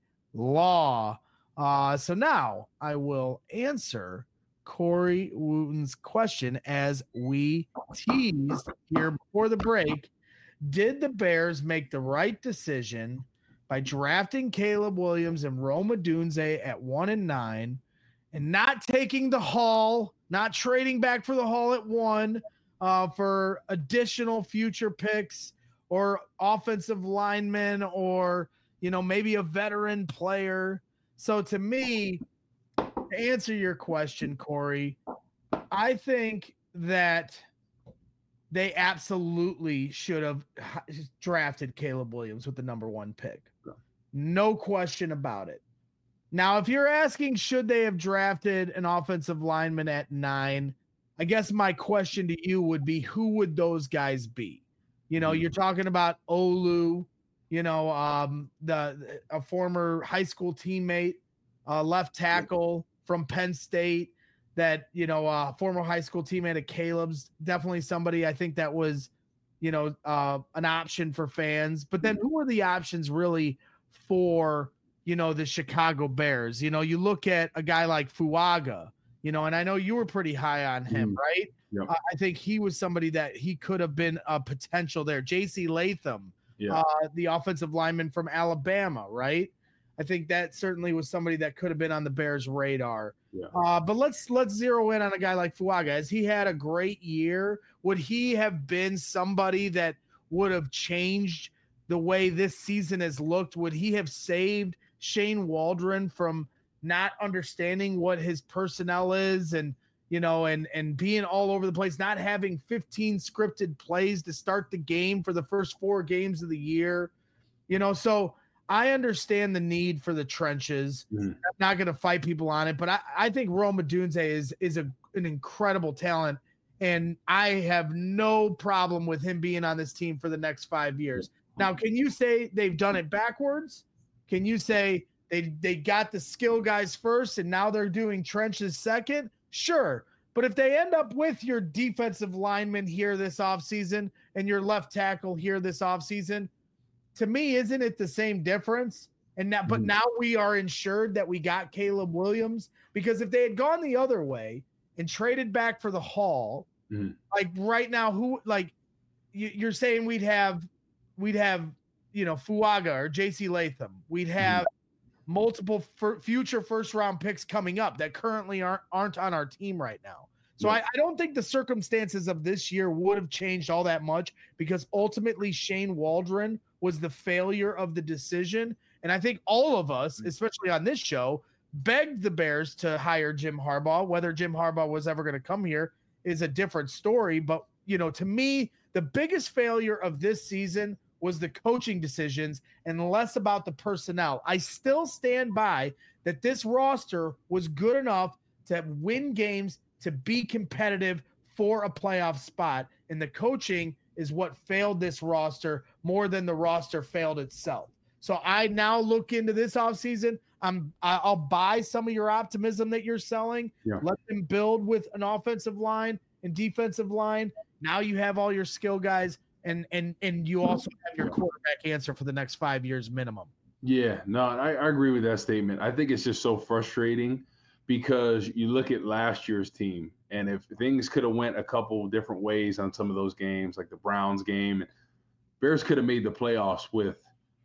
law. Uh, so now I will answer Corey Wooten's question as we teased here before the break. Did the Bears make the right decision by drafting Caleb Williams and Rome Odunze at one and nine, and not taking the haul, not trading back for the haul at one uh, for additional future picks or offensive linemen, or, you know, maybe a veteran player? So to me, to answer your question, Corey, I think that they absolutely should have drafted Caleb Williams with the number one pick. No question about it. Now, if you're asking, should they have drafted an offensive lineman at nine? I guess my question to you would be, who would those guys be? You know, you're talking about Olu, you know, um, the a former high school teammate, uh, left tackle from Penn State, that, you know, uh, former high school teammate of Caleb's, definitely somebody I think that was, you know, uh, an option for fans. But then who are the options really for, you know, the Chicago Bears? You know, you look at a guy like Fuaga, you know, and I know you were pretty high on him, Mm. right? Yep. Uh, I think he was somebody that he could have been a potential there. J C Latham, Yeah. uh, the offensive lineman from Alabama, right? I think that certainly was somebody that could have been on the Bears' radar. Yeah. Uh, but let's let's zero in on a guy like Fuaga. Has he had a great year? Would he have been somebody that would have changed the way this season has looked? Would he have saved Shane Waldron from not understanding what his personnel is, and, you know, and and being all over the place, not having fifteen scripted plays to start the game for the first four games of the year? You know, so I understand the need for the trenches. Mhm. I'm not going to fight people on it, but I, I think Rome Odunze is is a, an incredible talent And I have no problem with him being on this team for the next five years. Now, can you say they've done it backwards? Can you say they they got the skill guys first and now they're doing trenches second? Sure. But if they end up with your defensive lineman here this offseason and your left tackle here this offseason, to me, isn't it the same difference? And now, but now we are ensured that we got Caleb Williams, because if they had gone the other way and traded back for the Hall, mm-hmm. like right now, who like you, you're saying we'd have, we'd have, you know, Fuaga or J C Latham. We'd have mm-hmm. multiple f- future first round picks coming up that currently aren't aren't on our team right now. So yeah. I, I don't think the circumstances of this year would have changed all that much, because ultimately Shane Waldron was the failure of the decision. And I think all of us, especially on this show, begged the Bears to hire Jim Harbaugh. Whether Jim Harbaugh was ever going to come here is a different story. But, you know, to me, the biggest failure of this season was the coaching decisions and less about the personnel. I still stand by that this roster was good enough to win games, to be competitive for a playoff spot. And the coaching is what failed this roster more than the roster failed itself. So I now look into this offseason. I'm I'll buy some of your optimism that you're selling. Yeah. Let them build with an offensive line and defensive line. Now you have all your skill guys, and and and you also have your quarterback answer for the next five years minimum. Yeah, no, I, I agree with that statement. I think it's just so frustrating, because you look at last year's team, and if things could have went a couple different ways on some of those games, like the Browns game, Bears could have made the playoffs with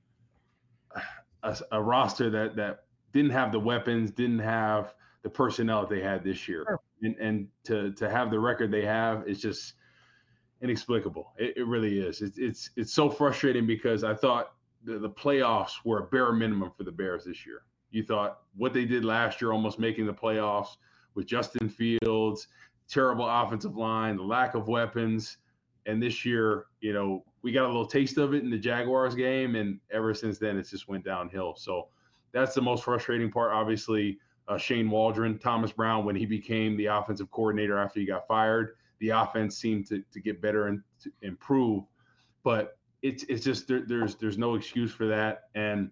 a, a roster that that didn't have the weapons, didn't have the personnel that they had this year. Sure. And and to to have the record they have is just inexplicable. It, it really is. It's it's it's so frustrating, because I thought the, the playoffs were a bare minimum for the Bears this year. You thought what they did last year, almost making the playoffs with Justin Fields, terrible offensive line, the lack of weapons. And this year, you know, we got a little taste of it in the Jaguars game, and ever since then, it's just went downhill. So that's the most frustrating part. Obviously, uh, Shane Waldron, Thomas Brown, when he became the offensive coordinator after he got fired, the offense seemed to, to get better and to improve. But it's it's just there, there's there's no excuse for that. And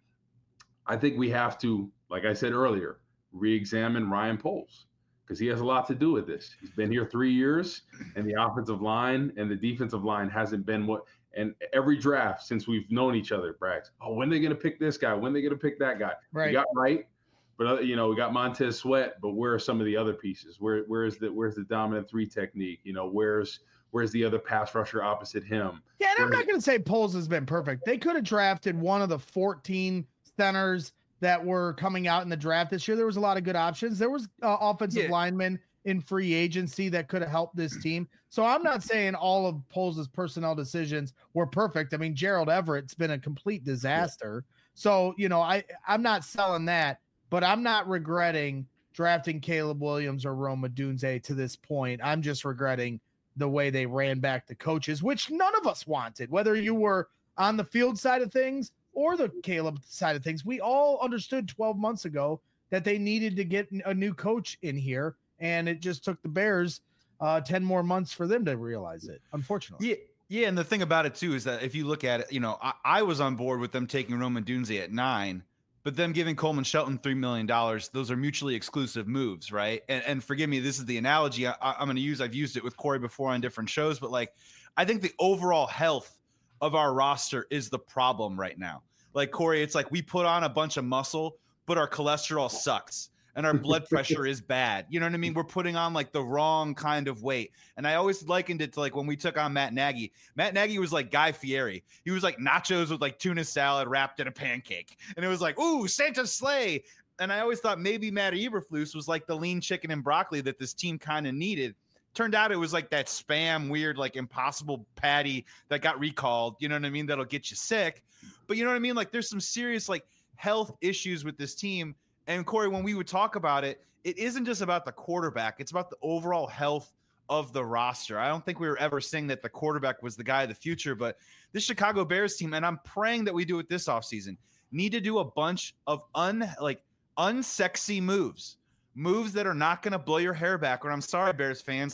I think we have to, like I said earlier, re-examine Ryan Poles, because he has a lot to do with this. He's been here three years, and the offensive line and the defensive line hasn't been what. And every draft since we've known each other, Braggs, oh, when are they going to pick this guy? When are they going to pick that guy? Right. We got right, but uh, you know, we got Montez Sweat, but where are some of the other pieces? Where where is the where's the dominant three technique? You know, where's where's the other pass rusher opposite him? Yeah, and where's, I'm not going to say Poles has been perfect. They could have drafted one of the fourteen centers that were coming out in the draft this year. There was a lot of good options. There was uh, offensive yeah. linemen in free agency that could have helped this team. So I'm not saying all of Poles' personnel decisions were perfect. I mean, Gerald Everett's been a complete disaster. Yeah. So, you know, I, I'm not selling that, but I'm not regretting drafting Caleb Williams or Rome Odunze to this point. I'm just regretting the way they ran back the coaches, which none of us wanted, whether you were on the field side of things or the Caleb side of things. We all understood twelve months ago that they needed to get a new coach in here. And it just took the Bears uh, ten more months for them to realize it, unfortunately. Yeah, yeah. And the thing about it, too, is that if you look at it, you know, I, I was on board with them taking Rome Odunze at nine, but them giving Coleman Shelton three million dollars, those are mutually exclusive moves, right? And, and forgive me, this is the analogy I, I'm going to use. I've used it with Corey before on different shows, but, like, I think the overall health of our roster is the problem right now. Like, Corey, it's like we put on a bunch of muscle, but our cholesterol sucks. And our blood pressure is bad. You know what I mean? We're putting on like the wrong kind of weight. And I always likened it to like when we took on Matt Nagy. Matt Nagy was like Guy Fieri. He was like nachos with like tuna salad wrapped in a pancake. And it was like, ooh, Santa's sleigh. And I always thought maybe Matt Eberflus was like the lean chicken and broccoli that this team kind of needed. Turned out it was like that spam, weird, like impossible patty that got recalled. You know what I mean? That'll get you sick. But you know what I mean? Like there's some serious like health issues with this team. And Corey, when we would talk about it, it isn't just about the quarterback. It's about the overall health of the roster. I don't think we were ever saying that the quarterback was the guy of the future, but this Chicago Bears team, and I'm praying that we do it this offseason, need to do a bunch of un like unsexy moves, moves that are not going to blow your hair back. And I'm sorry, Bears fans, like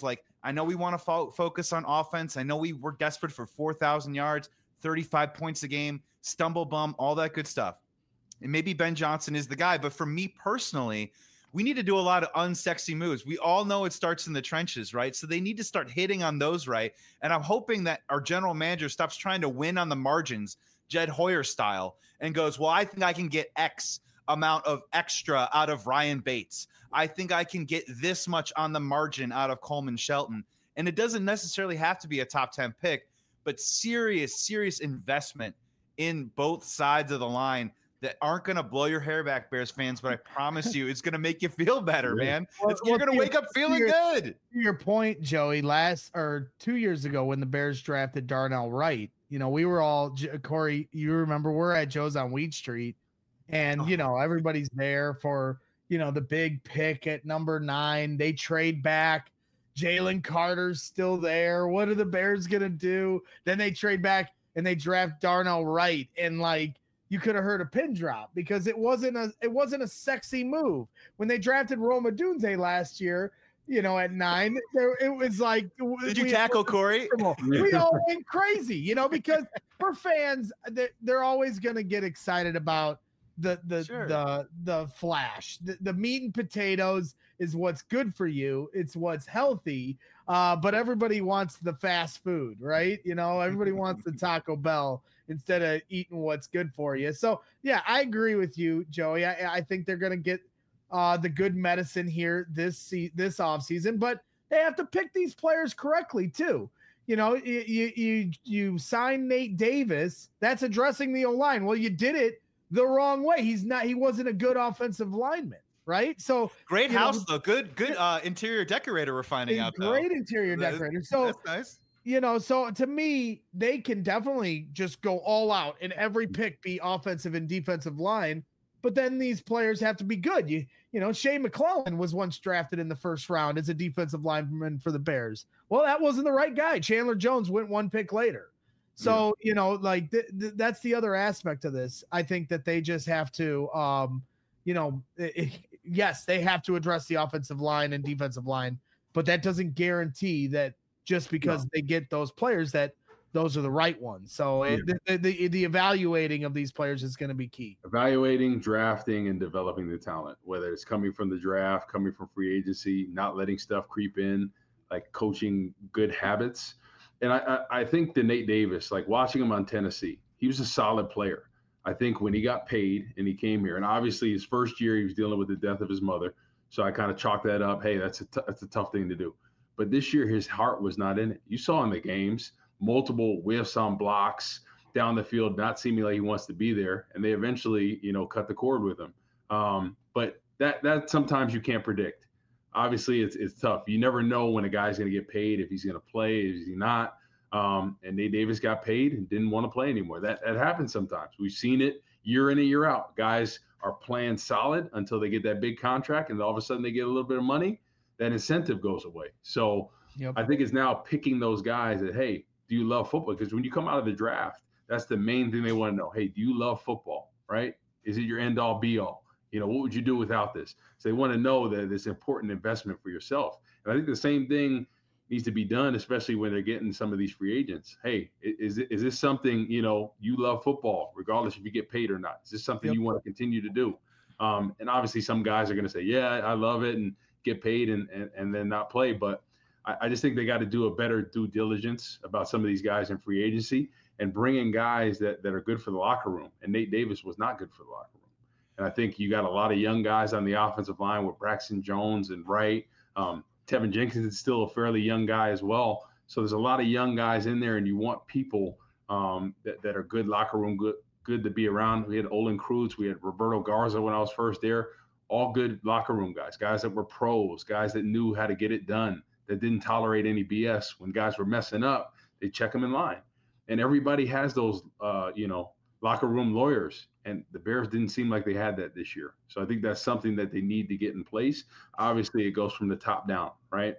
I know we want to fo- focus on offense. I know we were desperate for four thousand yards, thirty-five points a game, stumble bum, all that good stuff. And maybe Ben Johnson is the guy. But for me personally, we need to do a lot of unsexy moves. We all know it starts in the trenches, right? So they need to start hitting on those right. And I'm hoping that our general manager stops trying to win on the margins, Jed Hoyer style, and goes, well, I think I can get X amount of extra out of Ryan Bates. I think I can get this much on the margin out of Coleman Shelton. And it doesn't necessarily have to be a top ten pick, but serious, serious investment in both sides of the line that aren't going to blow your hair back, Bears fans, but I promise you it's going to make you feel better, Yeah. man. Well, It's, you're well, going to wake up to feeling your- good. To your point, Joey, last or two years ago when the Bears drafted Darnell Wright, you know, we were all, J- Corey, you remember we're at Joe's on Wheat Street, and, you know, everybody's there for, you know, the big pick at number nine. They trade back. Jalen Carter's still there. What are the Bears going to do? Then they trade back and they draft Darnell Wright, and like, you could have heard a pin drop because it wasn't a it wasn't a sexy move. When they drafted Roma Dunze last year, you know, at nine, there it was like, Did you we- tackle Corey? we all went crazy, you know, because for fans, they- they're always going to get excited about the the Sure. the the flash. The, the meat and potatoes is what's good for you. It's what's healthy. Uh, but everybody wants the fast food, right? You know, everybody wants the Taco Bell instead of eating what's good for you. So yeah, I agree with you, Joey. I, I think they're going to get uh, the good medicine here this se- this offseason, but they have to pick these players correctly too. You know, you you you, you sign Nate Davis. That's addressing the O-line. Well, you did it the wrong way. He's not. He wasn't a good offensive lineman, right? So Great you know, house, though. Good, good uh, interior decorator we're finding a out, though. great interior That- decorator. So That's nice. you know, so to me, they can definitely just go all out and every pick be offensive and defensive line. But then these players have to be good. You you know, Shane McClellan was once drafted in the first round as a defensive lineman for the Bears. Well, that wasn't the right guy. Chandler Jones went one pick later. So, you know, like th- th- that's the other aspect of this. I think that they just have to, um, you know, it, yes, they have to address the offensive line and defensive line, but that doesn't guarantee that just because No. they get those players that those are the right ones. So it, the, the the evaluating of these players is going to be key. Evaluating, drafting, and developing the talent, whether it's coming from the draft, coming from free agency, not letting stuff creep in, like coaching good habits. And I, I, I think the Nate Davis, like watching him on Tennessee, he was a solid player. I think when he got paid and he came here, and obviously his first year he was dealing with the death of his mother, so I kind of chalked that up. Hey, that's a t- that's a tough thing to do. But this year his heart was not in it. You saw in the games multiple whiffs on blocks down the field, not seeming like he wants to be there, and they eventually, you know, cut the cord with him. Um, but that that sometimes you can't predict. Obviously, it's it's tough. You never know when a guy's going to get paid, if he's going to play, is he not. Um, and Nate Davis got paid and didn't want to play anymore. That that happens sometimes. We've seen it year in and year out. Guys are playing solid until they get that big contract, and all of a sudden they get a little bit of money. That incentive goes away. So Yep. I think it's now picking those guys that, hey, do you love football? Because when you come out of the draft, that's the main thing they want to know. Hey, do you love football, right? Is it your end all be all? You know, what would you do without this? So they want to know that it's important investment for yourself. And I think the same thing needs to be done, especially when they're getting some of these free agents. Hey, is it, is this something, you know, you love football, regardless if you get paid or not? Is this something Yep. you want to continue to do? Um, and obviously some guys are going to say, yeah, I love it, and get paid and, and, and then not play. But I, I just think they got to do a better due diligence about some of these guys in free agency and bring in guys that, that are good for the locker room. And Nate Davis was not good for the locker room. And I think you got a lot of young guys on the offensive line with Braxton Jones and Wright. Um, Tevin Jenkins is still a fairly young guy as well. So there's a lot of young guys in there, and you want people um, that, that are good locker room, good good to be around. We had Olin Kreutz, we had Roberto Garza when I was first there, all good locker room guys, guys that were pros, guys that knew how to get it done, that didn't tolerate any B S. When guys were messing up, they check them in line. And everybody has those, uh, you know, locker room lawyers. And the Bears didn't seem like they had that this year. So I think that's something that they need to get in place. Obviously, it goes from the top down, right?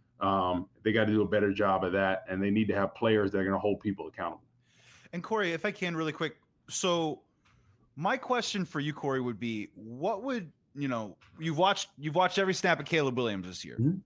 Um, they got to do a better job of that. And they need to have players that are going to hold people accountable. And Corey, if I can really quick. So my question for you, Corey, would be, what would, you know, you've watched, you've watched every snap of Caleb Williams this year. Mm-hmm.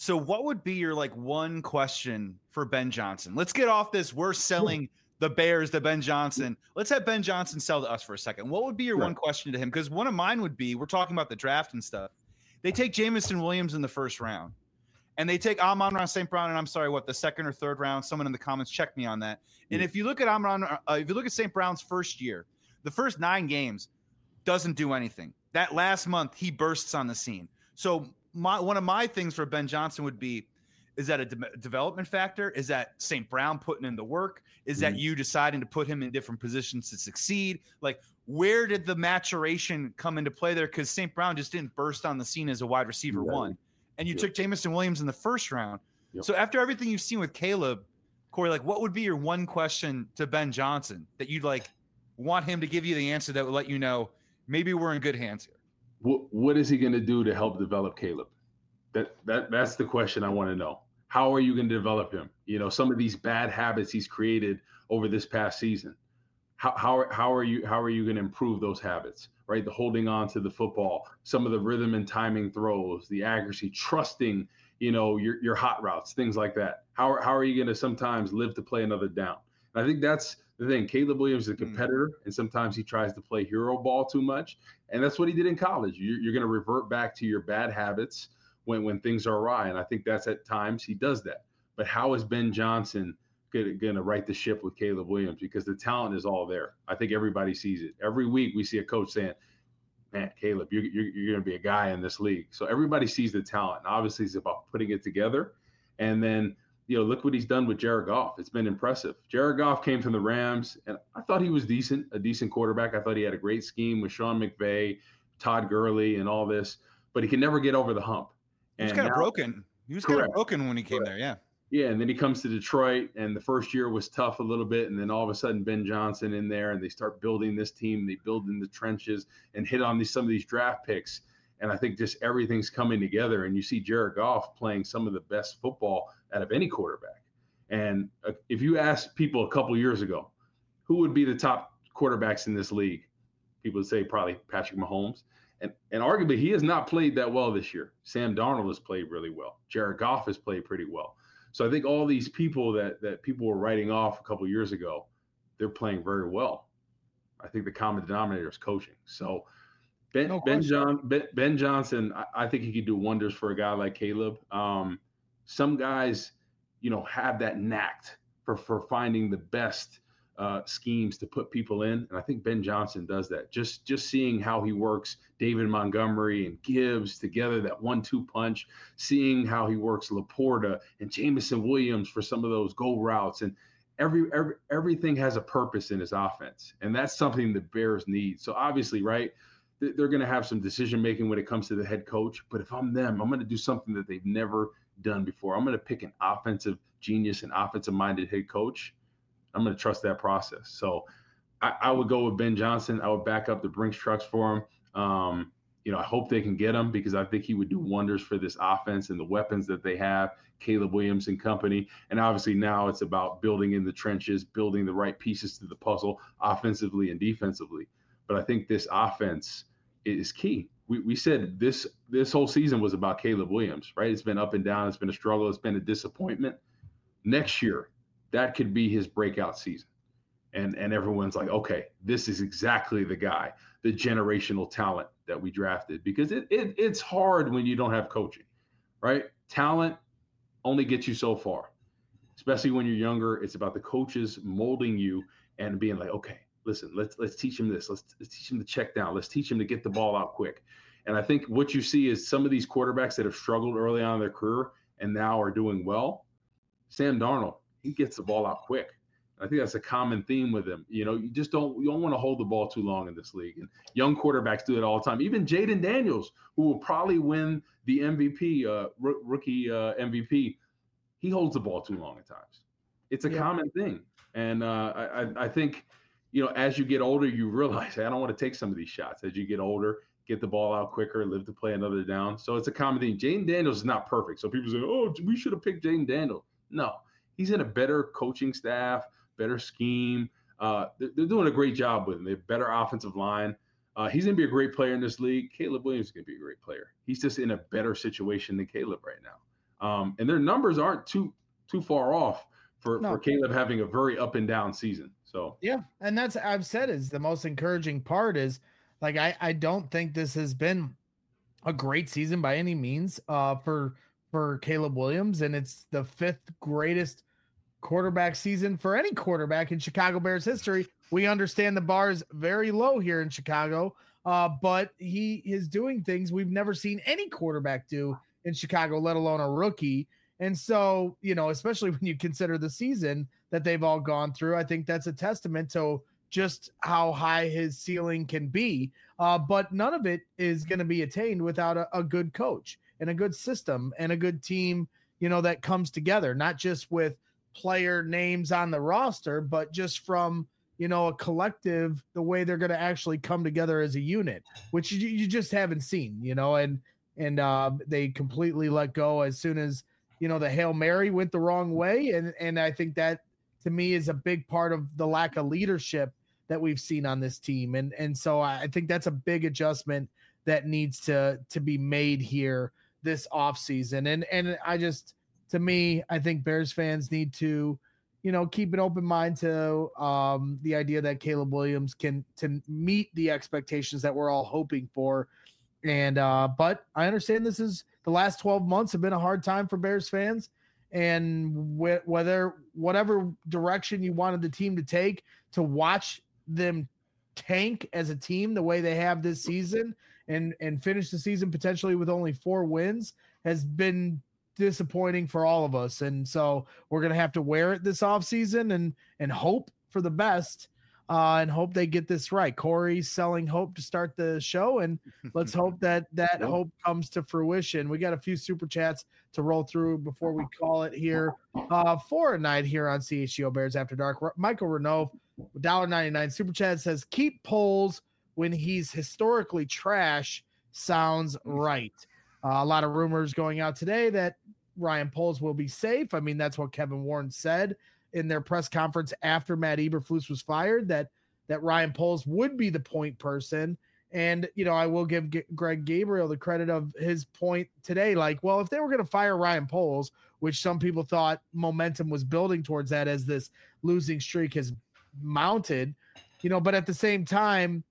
So what would be your like one question for Ben Johnson? Let's get off this. We're selling the Bears to Ben Johnson. Let's have Ben Johnson sell to us for a second. What would be your Right. one question to him? Because one of mine would be, we're talking about the draft and stuff. They take Jameson Williams in the first round, and they take Amon-Ra Saint Brown, and I'm sorry, what, the second or third round? Someone in the comments, check me on that. And Yeah. if you look at Amon, uh, if you look at Saint Brown's first year, the first nine games doesn't do anything. That last month, he bursts on the scene. So my one of my things for Ben Johnson would be, is that a de- development factor? Is that Saint Brown putting in the work? Is Mhm. that you deciding to put him in different positions to succeed? Like, where did the maturation come into play there? Because Saint Brown just didn't burst on the scene as a wide receiver Right. one. And you Yep. took Jameson Williams in the first round. Yep. So after everything you've seen with Caleb, Corey, like, what would be your one question to Ben Johnson that you'd like want him to give you the answer that would let you know maybe we're in good hands here? What what is he going to do to help develop Caleb? That that that's the question I want to know. How are you going to develop him? You know, some of these bad habits he's created over this past season. How how are, how are you how are you going to improve those habits? Right, the holding on to the football, some of the rhythm and timing throws, the accuracy, trusting, you know, your your hot routes, things like that. How are, how are you going to sometimes live to play another down? And I think that's the thing. Caleb Williams is a competitor, mm. and sometimes he tries to play hero ball too much, and that's what he did in college. You're, you're going to revert back to your bad habits when when things are awry, and I think that's at times he does that. But how is Ben Johnson going to right the ship with Caleb Williams? Because the talent is all there. I think everybody sees it. Every week we see a coach saying, man, Caleb, you're, you're, you're going to be a guy in this league. So everybody sees the talent. And obviously, it's about putting it together. And then, you know, look what he's done with Jared Goff. It's been impressive. Jared Goff came from the Rams, and I thought he was decent, a decent quarterback. I thought he had a great scheme with Sean McVay, Todd Gurley, and all this, but he can never get over the hump. He was and kind of now, broken. He was kind of broken when he came correct. there, yeah. Yeah, and then he comes to Detroit, and the first year was tough a little bit, and then all of a sudden Ben Johnson in there, and they start building this team. They build in the trenches and hit on these some of these draft picks, and I think just everything's coming together. And you see Jared Goff playing some of the best football out of any quarterback. And uh, if you ask people a couple years ago, who would be the top quarterbacks in this league, people would say probably Patrick Mahomes. And, and arguably, he has not played that well this year. Sam Darnold has played really well. Jared Goff has played pretty well. So I think all these people that that people were writing off a couple of years ago, they're playing very well. I think the common denominator is coaching. So Ben No Ben, question. John, ben, ben Johnson, I, I think he could do wonders for a guy like Caleb. Um, some guys, you know, have that knack for for finding the best uh, schemes to put people in, and I think Ben Johnson does that. Just just seeing how he works David Montgomery and Gibbs together, that one two punch, seeing how he works Laporta and Jameson Williams for some of those go routes, and every, every everything has a purpose in his offense, and that's something the Bears need. So obviously, right, they're going to have some decision making when it comes to the head coach, but if I'm them, I'm going to do something that they've never done before. I'm going to pick an offensive genius and offensive minded head coach. I'm going to trust that process. So I, I would go with Ben Johnson. I would back up the Brinks trucks for him. Um, you know, I hope they can get him because I think he would do wonders for this offense and the weapons that they have, Caleb Williams and company. And obviously now it's about building in the trenches, building the right pieces to the puzzle offensively and defensively. But I think this offense is key. We, we said this this whole season was about Caleb Williams, right? It's been up and down. It's been a struggle. It's been a disappointment. Next year, that could be his breakout season. And and everyone's like, okay, this is exactly the guy, the generational talent that we drafted. Because it, it it's hard when you don't have coaching, right? Talent only gets you so far, especially when you're younger. It's about the coaches molding you and being like, okay, listen, let's let's teach him this. Let's, let's teach him to check down. Let's teach him to get the ball out quick. And I think what you see is some of these quarterbacks that have struggled early on in their career and now are doing well. Sam Darnold, he gets the ball out quick. I think that's a common theme with him. You know, you just don't you don't want to hold the ball too long in this league. And young quarterbacks do it all the time. Even Jaden Daniels, who will probably win the M V P, uh, r- rookie uh, M V P, he holds the ball too long at times. It's a Yeah. common thing. And uh, I, I think, you know, as you get older, you realize, hey, I don't want to take some of these shots. As you get older, get the ball out quicker, live to play another down. So it's a common thing. Jaden Daniels is not perfect. So people say, oh, we should have picked Jaden Daniels. No, he's in a better coaching staff, better scheme. Uh, they're, they're doing a great job with him. They have better offensive line. Uh, he's going to be a great player in this league. Caleb Williams is going to be a great player. He's just in a better situation than Caleb right now. Um, and their numbers aren't too too far off for, No. for Caleb having a very up and down season. So yeah, and that's I've said is the most encouraging part is like I I don't think this has been a great season by any means uh for for Caleb Williams, and it's the fifth greatest quarterback season for any quarterback in Chicago Bears history. We understand the bar is very low here in Chicago, uh, but he is doing things we've never seen any quarterback do in Chicago, let alone a rookie. And so, you know, especially when you consider the season that they've all gone through, I think that's a testament to just how high his ceiling can be. Uh, but none of it is going to be attained without a, a good coach and a good system and a good team, you know, that comes together, not just with player names on the roster, but just from, you know, a collective, the way they're going to actually come together as a unit, which you, you just haven't seen, you know, and, and uh, they completely let go as soon as, you know, the Hail Mary went the wrong way. And, and I think that to me is a big part of the lack of leadership that we've seen on this team. And, and so I think that's a big adjustment that needs to, to be made here this offseason. And, and I just, to me, I think Bears fans need to, you know, keep an open mind to um, the idea that Caleb Williams can to meet the expectations that we're all hoping for. And uh, but I understand this is the last twelve months have been a hard time for Bears fans, and wh- whether whatever direction you wanted the team to take, to watch them tank as a team the way they have this season and and finish the season potentially with only four wins has been disappointing for all of us. And so we're going to have to wear it this offseason and and hope for the best uh, and hope they get this right. Corey's selling hope to start the show, and let's hope that that hope comes to fruition. We got a few super chats to roll through before we call it here uh, for a night here on C H G O Bears After Dark. Michael Renault, one dollar ninety-nine super chat, says, keep Poles when he's historically trash. Sounds right. Uh, a lot of rumors going out today that Ryan Poles will be safe. I mean, that's what Kevin Warren said in their press conference after Matt Eberflus was fired, that that Ryan Poles would be the point person. And, you know, I will give G- Greg Gabriel the credit of his point today. Like, well, if they were going to fire Ryan Poles, which some people thought momentum was building towards that as this losing streak has mounted, you know, but at the same time,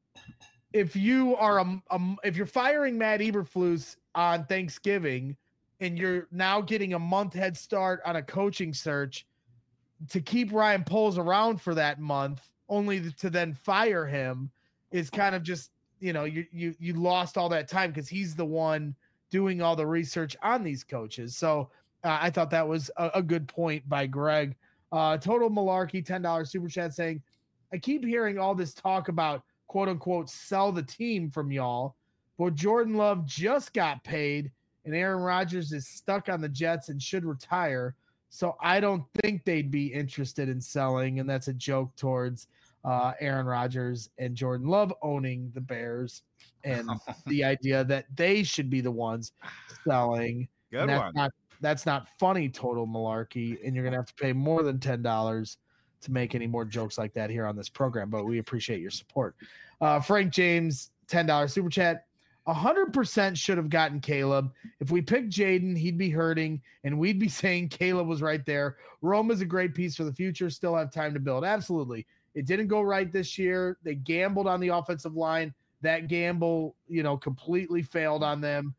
if you are a, a if you're firing Matt Eberflus on Thanksgiving and you're now getting a month head start on a coaching search, to keep Ryan Poles around for that month only to then fire him is kind of just, you know, you you you lost all that time because he's the one doing all the research on these coaches. So uh, I thought that was a, a good point by Greg. Uh, Total Malarkey, ten dollars super chat saying, I keep hearing all this talk about quote unquote sell the team from y'all, but Jordan Love just got paid and Aaron Rodgers is stuck on the Jets and should retire. So I don't think they'd be interested in selling. And that's a joke towards uh, Aaron Rodgers and Jordan Love owning the Bears and the idea that they should be the ones selling. Good and that's one. Not, that's not funny, Total Malarkey. And you're going to have to pay more than ten dollars to make any more jokes like that here on this program. But we appreciate your support. Uh, Frank James, ten dollars super chat. one hundred percent should have gotten Caleb. If we picked Jaden, he'd be hurting, and we'd be saying Caleb was right there. Rome is a great piece for the future. Still have time to build. Absolutely. It didn't go right this year. They gambled on the offensive line. That gamble, you know, completely failed on them.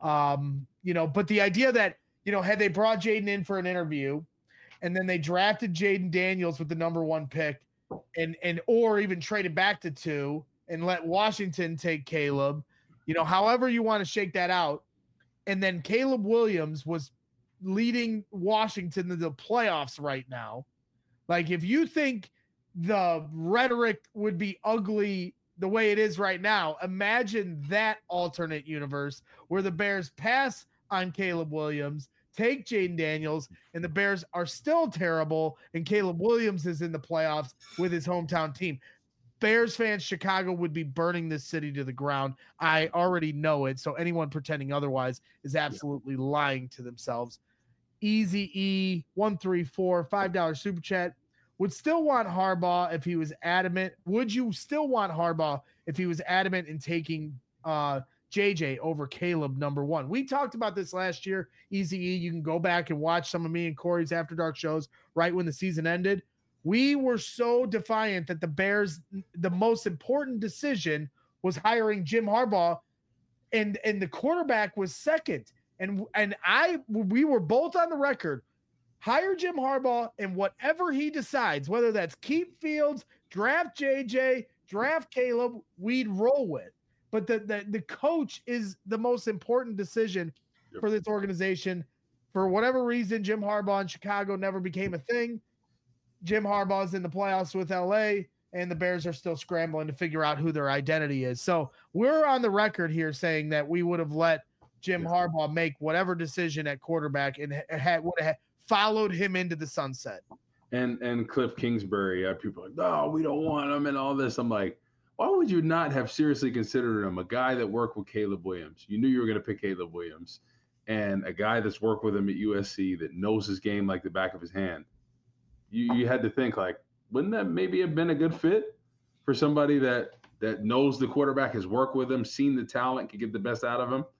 Um, you know, but the idea that, you know, had they brought Jaden in for an interview and then they drafted Jaden Daniels with the number one pick and, and, or even traded back to two and let Washington take Caleb, you know, however you want to shake that out. And then Caleb Williams was leading Washington to the playoffs right now. Like, if you think the rhetoric would be ugly the way it is right now, imagine that alternate universe where the Bears pass on Caleb Williams, take Jaden Daniels, and the Bears are still terrible, and Caleb Williams is in the playoffs with his hometown team. Bears fans, Chicago would be burning this city to the ground. I already know it. So anyone pretending otherwise is absolutely lying to themselves. Easy E one three four, five dollars super chat. Would still want Harbaugh if he was adamant. Would you still want Harbaugh if he was adamant in taking uh, J J over Caleb number one. We talked about this last year. Easy E, you can go back and watch some of me and Corey's After Dark shows right when the season ended. We were so defiant that the Bears, the most important decision was hiring Jim Harbaugh, and and the quarterback was second. And and I we were both on the record. Hire Jim Harbaugh, and whatever he decides, whether that's keep Fields, draft J J, draft Caleb, we'd roll with. But the, the, the coach is the most important decision yep. for this organization. For whatever reason, Jim Harbaugh in Chicago never became a thing. Jim Harbaugh's in the playoffs with L A, and the Bears are still scrambling to figure out who their identity is. So we're on the record here saying that we would have let Jim yeah. Harbaugh make whatever decision at quarterback and had would have followed him into the sunset. And and Cliff Kingsbury, uh, people are like, no, we don't want him and all this. I'm like, why would you not have seriously considered him? A guy that worked with Caleb Williams. You knew you were going to pick Caleb Williams. And a guy that's worked with him at U S C that knows his game like the back of his hand. You you had to think, like, wouldn't that maybe have been a good fit for somebody that that knows the quarterback, has worked with him, seen the talent, could get the best out of him?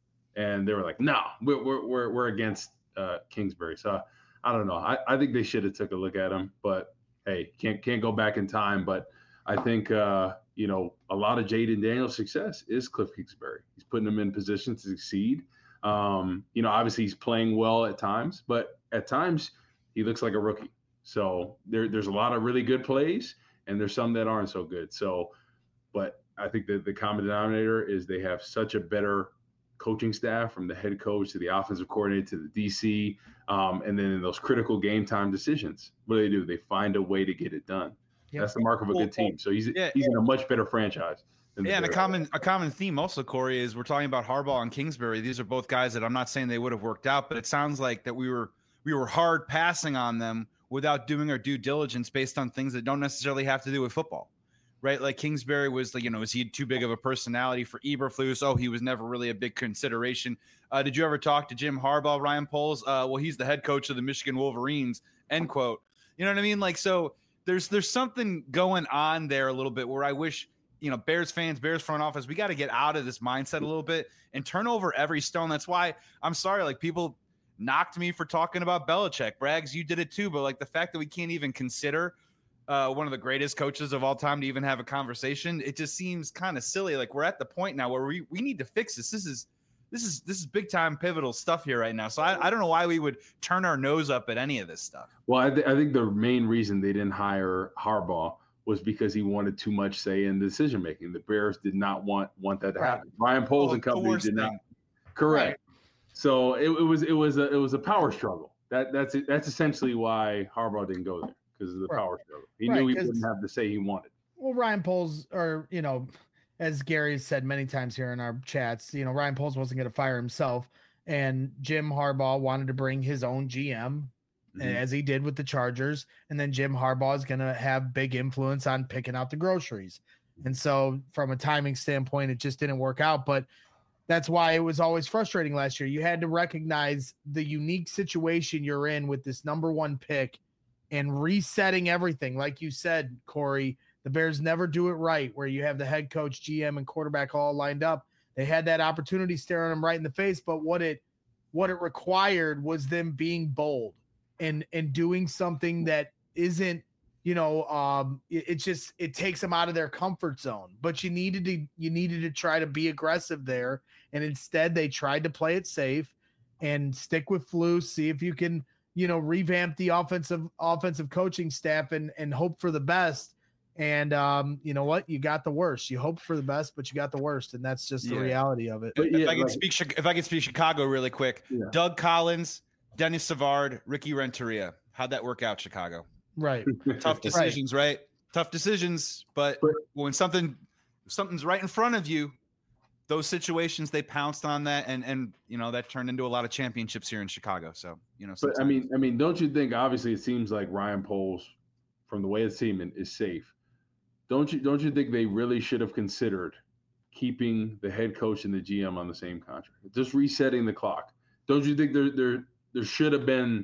And they were like, no, we're we're we're, we're against uh, Kingsbury. So I don't know. I, I think they should have took a look at him. But, hey, can't can't go back in time. But I think, uh, you know, a lot of Jaden Daniels' success is Cliff Kingsbury. He's putting him in position to succeed. Um, you know, obviously he's playing well at times, but at times he looks like a rookie. So there, there's a lot of really good plays, and there's some that aren't so good. So, but I think that the common denominator is they have such a better coaching staff, from the head coach to the offensive coordinator to the D C, um, and then in those critical game time decisions, what do they do? They find a way to get it done. Yep. That's the mark of a good team. So he's yeah, he's yeah. in a much better franchise. Yeah, and a common a common theme also, Corey, is we're talking about Harbaugh and Kingsbury. These are both guys that I'm not saying they would have worked out, but it sounds like that we were we were hard passing on them without doing our due diligence based on things that don't necessarily have to do with football, right? Like Kingsbury was like, you know, is he too big of a personality for Eberflus? Oh, he was never really a big consideration. Uh, did you ever talk to Jim Harbaugh, Ryan Poles? Uh, well, he's the head coach of the Michigan Wolverines, end quote. You know what I mean? Like, so there's there's something going on there a little bit where I wish, you know, Bears fans, Bears front office, we got to get out of this mindset a little bit and turn over every stone. That's why I'm sorry, like people knocked me for talking about Belichick. Braggs, you did it too, but like the fact that we can't even consider uh, one of the greatest coaches of all time to even have a conversation, it just seems kind of silly. Like we're at the point now where we, we need to fix this. This is this is this is big time pivotal stuff here right now. So I, I don't know why we would turn our nose up at any of this stuff. Well, I, th- I think the main reason they didn't hire Harbaugh was because he wanted too much say in the decision making. The Bears did not want want that to happen. Ryan Poles oh, and company did not. Correct. Right. So it, it was it was a it was a power struggle. That that's that's essentially why Harbaugh didn't go there, because of the right. power struggle. He right, knew he wouldn't have the say he wanted. Well, Ryan Poles, or you know, as Gary said many times here in our chats, you know, Ryan Poles wasn't going to fire himself, and Jim Harbaugh wanted to bring his own G M, mm-hmm. as he did with the Chargers, and then Jim Harbaugh is going to have big influence on picking out the groceries, and so from a timing standpoint, it just didn't work out, but. That's why it was always frustrating last year. You had to recognize the unique situation you're in with this number one pick and resetting everything. Like you said, Corey, the Bears never do it right, where you have the head coach, G M, and quarterback all lined up. They had that opportunity staring them right in the face, but what it what it required was them being bold and and doing something that isn't, you know, um, it, it just it takes them out of their comfort zone. But you needed to you needed to try to be aggressive there. And instead, they tried to play it safe and stick with Flus, see if you can, you know, revamp the offensive offensive coaching staff and and hope for the best. And um, you know what? You got the worst. You hoped for the best, but you got the worst, and that's just yeah. the reality of it. If, yeah, I can right. speak, if I can speak Chicago really quick, yeah. Doug Collins, Dennis Savard, Ricky Renteria. How'd that work out, Chicago? Right. Tough decisions, right. right? Tough decisions, but when something something's right in front of you. Those situations, they pounced on that, and and you know that turned into a lot of championships here in Chicago. So you know, but I mean, I mean, don't you think? Obviously, it seems like Ryan Poles, from the way it's seeming, is safe. Don't you? Don't you think they really should have considered keeping the head coach and the G M on the same contract, just resetting the clock? Don't you think there there there should have been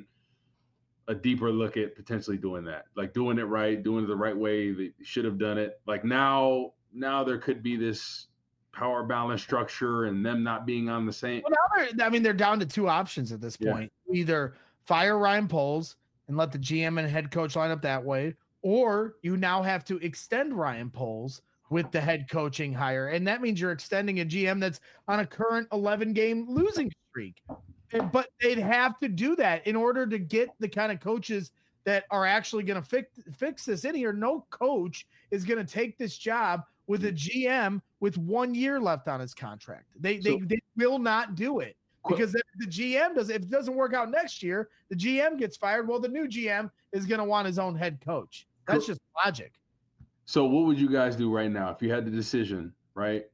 a deeper look at potentially doing that, like doing it right, doing it the right way? They should have done it. Like now, now there could be this power balance structure and them not being on the same. Well, now they're, I mean, they're down to two options at this point. Yeah. Either fire Ryan Poles and let the G M and head coach line up that way, or you now have to extend Ryan Poles with the head coaching hire. And that means you're extending a G M that's on a current eleven game losing streak. But they'd have to do that in order to get the kind of coaches that are actually going to fix fix this in here. No coach is going to take this job with a G M with one year left on his contract. They so, they, they will not do it because if the G M does, if it doesn't work out next year, the G M gets fired. Well, the new G M is going to want his own head coach. That's just logic. So what would you guys do right now if you had the decision, right?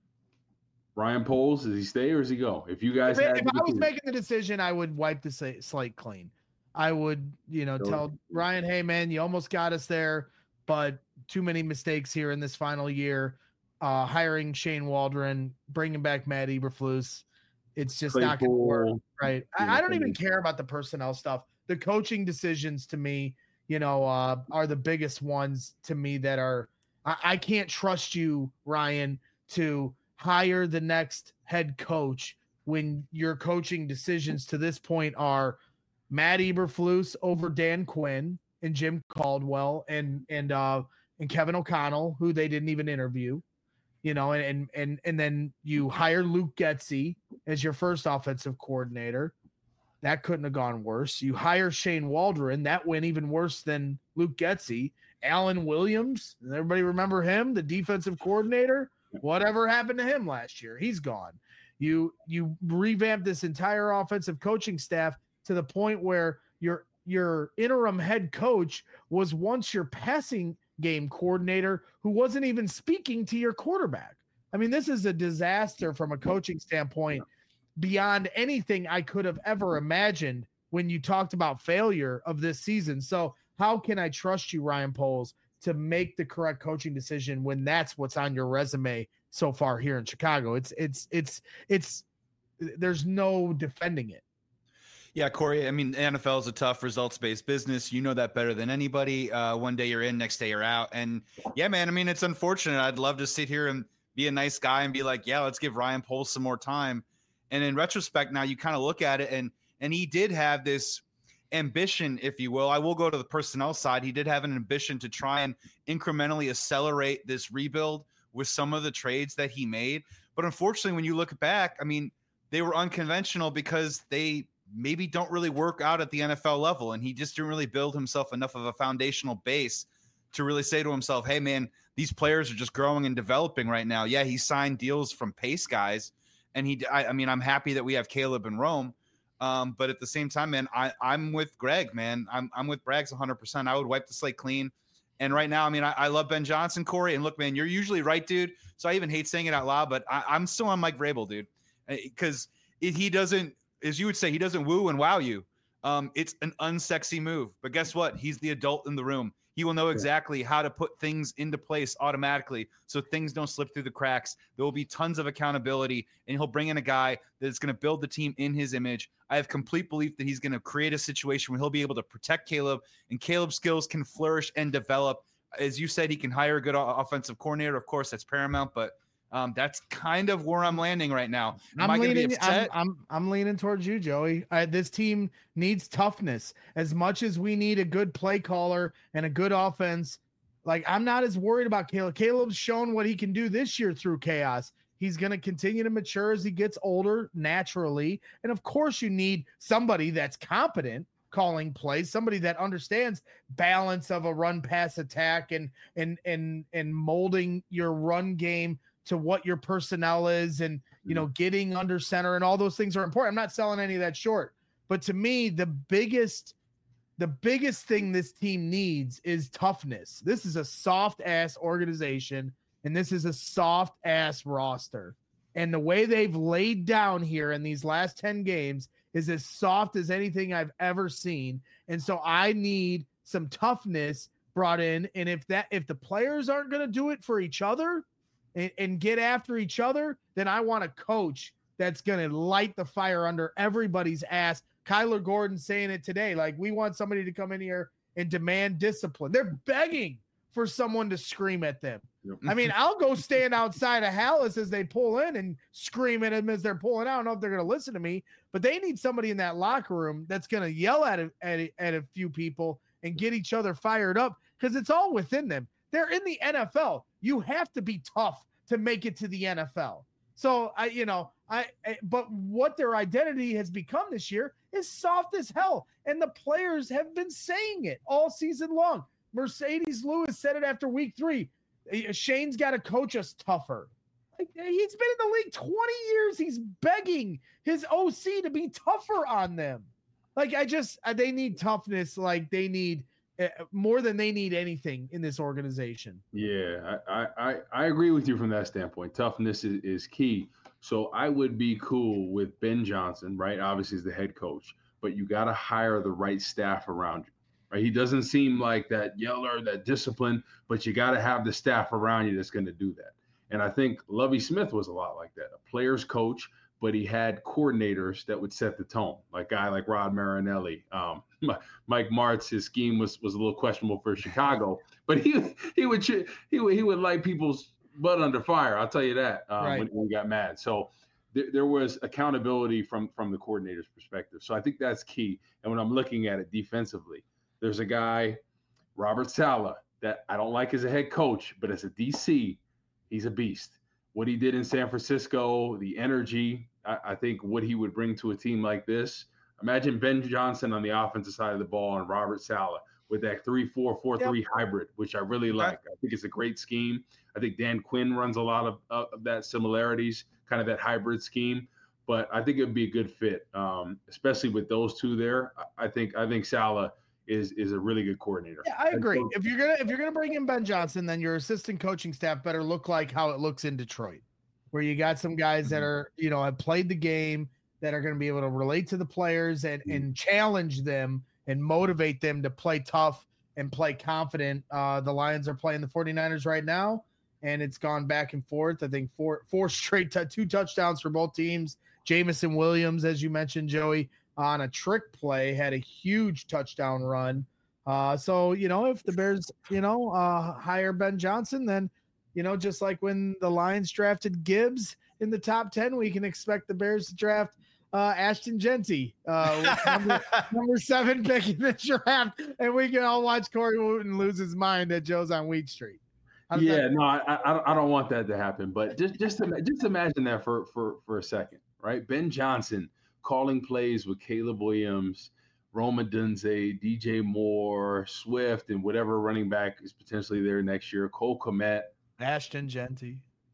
Ryan Poles, does he stay or does he go? If you guys, if, had if I was making the decision, I would wipe the slate clean. I would, you know, sure. tell Ryan, hey man, you almost got us there, but too many mistakes here in this final year. Uh, hiring Shane Waldron, bringing back Matt Eberflus, it's just Claypool, not going to work, right? I, I don't even care about the personnel stuff. The coaching decisions to me, you know, uh, are the biggest ones to me that are. I, I can't trust you, Ryan, to hire the next head coach when your coaching decisions to this point are Matt Eberflus over Dan Quinn and Jim Caldwell and and uh and Kevin O'Connell, who they didn't even interview, you know, and and and, and then you hire Luke Getsy as your first offensive coordinator. That couldn't have gone worse. You hire Shane Waldron, that went even worse than Luke Getsy. Alan Williams, does everybody remember him, the defensive coordinator? Whatever happened to him last year? He's gone. You you revamped this entire offensive coaching staff to the point where your your interim head coach was once your passing game coordinator who wasn't even speaking to your quarterback. I mean, this is a disaster from a coaching standpoint beyond anything I could have ever imagined when you talked about failure of this season. So how can I trust you, Ryan Poles, to make the correct coaching decision when that's what's on your resume so far here in Chicago? It's, it's, it's, it's, there's no defending it. Yeah, Corey, I mean, N F L is a tough results-based business. You know that better than anybody. Uh, one day you're in, next day you're out. And yeah, man, I mean, it's unfortunate. I'd love to sit here and be a nice guy and be like, yeah, let's give Ryan Poles some more time. And in retrospect, now you kind of look at it and, and he did have this ambition, if you will. I will go to the personnel side. He did have an ambition to try and incrementally accelerate this rebuild with some of the trades that he made. But unfortunately, when you look back, I mean, they were unconventional because they maybe don't really work out at the N F L level. And he just didn't really build himself enough of a foundational base to really say to himself, hey man, these players are just growing and developing right now. Yeah. He signed deals from Pace guys. And he, I, I mean, I'm happy that we have Caleb and Rome. Um, but at the same time, man, I, I'm with Greg, man. I'm, I'm with Braggs one hundred percent. I would wipe the slate clean. And right now, I mean, I, I love Ben Johnson, Corey. And look, man, you're usually right, dude. So I even hate saying it out loud, but I, I'm still on Mike Vrabel, dude. Because he doesn't, as you would say, he doesn't woo and wow you. Um, it's an unsexy move. But guess what? He's the adult in the room. He will know exactly how to put things into place automatically so things don't slip through the cracks. There will be tons of accountability, and he'll bring in a guy that's going to build the team in his image. I have complete belief that he's going to create a situation where he'll be able to protect Caleb, and Caleb's skills can flourish and develop. As you said, he can hire a good offensive coordinator. Of course, that's paramount, but Um, that's kind of where I'm landing right now. Am I'm I leaning, be upset? I'm, I'm, I'm leaning towards you, Joey. Uh, this team needs toughness as much as we need a good play caller and a good offense. Like, I'm not as worried about Caleb. Caleb's shown what he can do this year through chaos. He's going to continue to mature as he gets older naturally. And of course you need somebody that's competent calling plays, somebody that understands balance of a run pass attack and, and, and, and molding your run game to what your personnel is, and, you know, getting under center and all those things are important. I'm not selling any of that short, but to me, the biggest, the biggest thing this team needs is toughness. This is a soft ass organization, and this is a soft ass roster. And the way they've laid down here in these last ten games is as soft as anything I've ever seen. And so I need some toughness brought in. And if that, if the players aren't going to do it for each other, And, and get after each other, then I want a coach that's going to light the fire under everybody's ass. Kyler Gordon saying it today, like, we want somebody to come in here and demand discipline. They're begging for someone to scream at them. Yep. I mean, I'll go stand outside of Hallis as they pull in and scream at them as they're pulling out. I don't know if they're going to listen to me, but they need somebody in that locker room that's going to yell at a, at, a, at a few people and get each other fired up, because it's all within them. They're in the N F L. You have to be tough to make it to the N F L. So I, you know, I, I but what their identity has become this year is soft as hell. And the players have been saying it all season long. Mercedes Lewis said it after week three. Shane's got to coach us tougher. Like, he's been in the league twenty years. He's begging his O C to be tougher on them. Like, I just, they need toughness. Like, they need uh, more than they need anything in this organization. Yeah, I, I, I agree with you from that standpoint. Toughness is, is key. So I would be cool with Ben Johnson, right? Obviously, he's the head coach, but you got to hire the right staff around you. Right? He doesn't seem like that yeller, that discipline, but you got to have the staff around you that's going to do that. And I think Lovie Smith was a lot like that, a player's coach, but he had coordinators that would set the tone, like a guy like Rod Marinelli. Um, Mike Martz, his scheme was was a little questionable for Chicago, but he he would he would he would light people's butt under fire. I'll tell you that um, right. when, when he got mad. So th- there was accountability from from the coordinator's perspective. So I think that's key. And when I'm looking at it defensively, there's a guy, Robert Saleh, that I don't like as a head coach, but as a D C, he's a beast. What he did in San Francisco, the energy, I, I think what he would bring to a team like this. Imagine Ben Johnson on the offensive side of the ball and Robert Saleh with that three four, four three yep. hybrid, which I really like. I think it's a great scheme. I think Dan Quinn runs a lot of, uh, of that similarities, kind of that hybrid scheme. But I think it would be a good fit, um, especially with those two there. I, I think I think Saleh is is a really good coordinator. Yeah, I agree. If you're gonna if you're gonna bring in Ben Johnson, then your assistant coaching staff better look like how it looks in Detroit, where you got some guys that are, you know, have played the game, that are going to be able to relate to the players and and challenge them and motivate them to play tough and play confident. Uh, the Lions are playing the 49ers right now, and it's gone back and forth. I think four four straight t- two touchdowns for both teams. Jameson Williams, as you mentioned, Joey, on a trick play, had a huge touchdown run. Uh, so, you know, if the Bears, you know, uh, hire Ben Johnson, then, you know, just like when the Lions drafted Gibbs in the top ten, we can expect the Bears to draft uh, Ashton Genty, uh, number, number seven pick in the draft, and we can all watch Corey Wooten lose his mind at Joe's on Wheat Street. Yeah, that- no, I, I I don't want that to happen, but just just just imagine that for for for a second, right? Ben Johnson calling plays with Caleb Williams, Rome Odunze, D J Moore, Swift, and whatever running back is potentially there next year. Cole Kmet, Ashton Genty.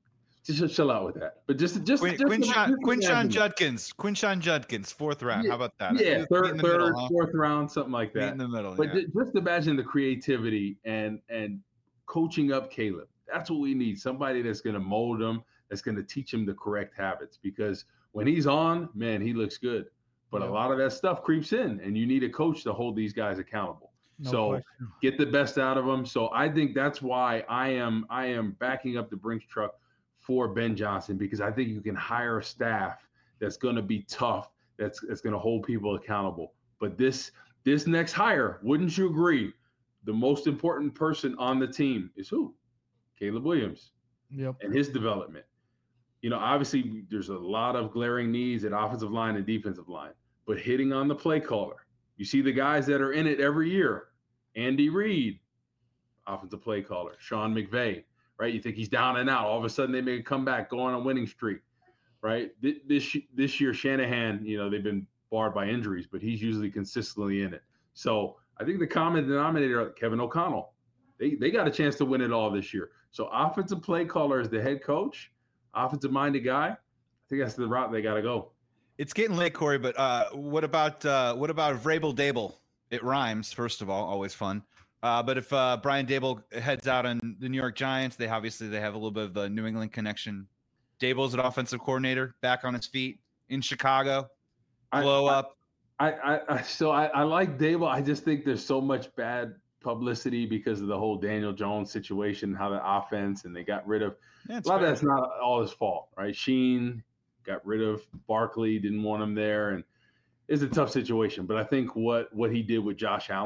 Just chill out with that. But just just Quin, just, Quinshon, just Quinshon Judkins, Quinshon Judkins, fourth round. Yeah, How about that? Yeah, Meet third, in the third, middle, huh? fourth round, something like Meet that. in the middle. But yeah. ju- just imagine the creativity and and coaching up Caleb. That's what we need. Somebody that's going to mold him, that's going to teach him the correct habits. Because when he's on, man, he looks good. But Yeah. a lot of that stuff creeps in, and you need a coach to hold these guys accountable. No so question. get the best out of them. So I think that's why I am I am backing up the Brinks truck for Ben Johnson, because I think you can hire a staff that's going to be tough, that's that's going to hold people accountable. But this this next hire, wouldn't you agree, the most important person on the team is who? Caleb Williams Yep. and his development. You know, obviously there's a lot of glaring needs at offensive line and defensive line, but hitting on the play caller. You see the guys that are in it every year. Andy Reid, offensive play caller. Sean McVay, right? You think he's down and out. All of a sudden they make a comeback, go on a winning streak, right? This this year, Shanahan, you know, they've been barred by injuries, but he's usually consistently in it. So I think the common denominator, Kevin O'Connell, they, they got a chance to win it all this year. So offensive play caller is the head coach, offensive-minded guy. I think that's the route they got to go. It's getting late, Corey, but uh, what about uh, what about Vrabel Dable? It rhymes, first of all, always fun. Uh, but if uh, Brian Dable heads out on the New York Giants, they obviously they have a little bit of the New England connection. Dable's an offensive coordinator, back on his feet in Chicago, blow I, up. I, I, I so I, I like Dable. I just think there's so much bad publicity because of the whole Daniel Jones situation, how the offense, and they got rid of Yeah, a lot fair. of that's not all his fault, right? Sheen got rid of Barkley, didn't want him there, and it's a tough situation. But I think what what he did with Josh Allen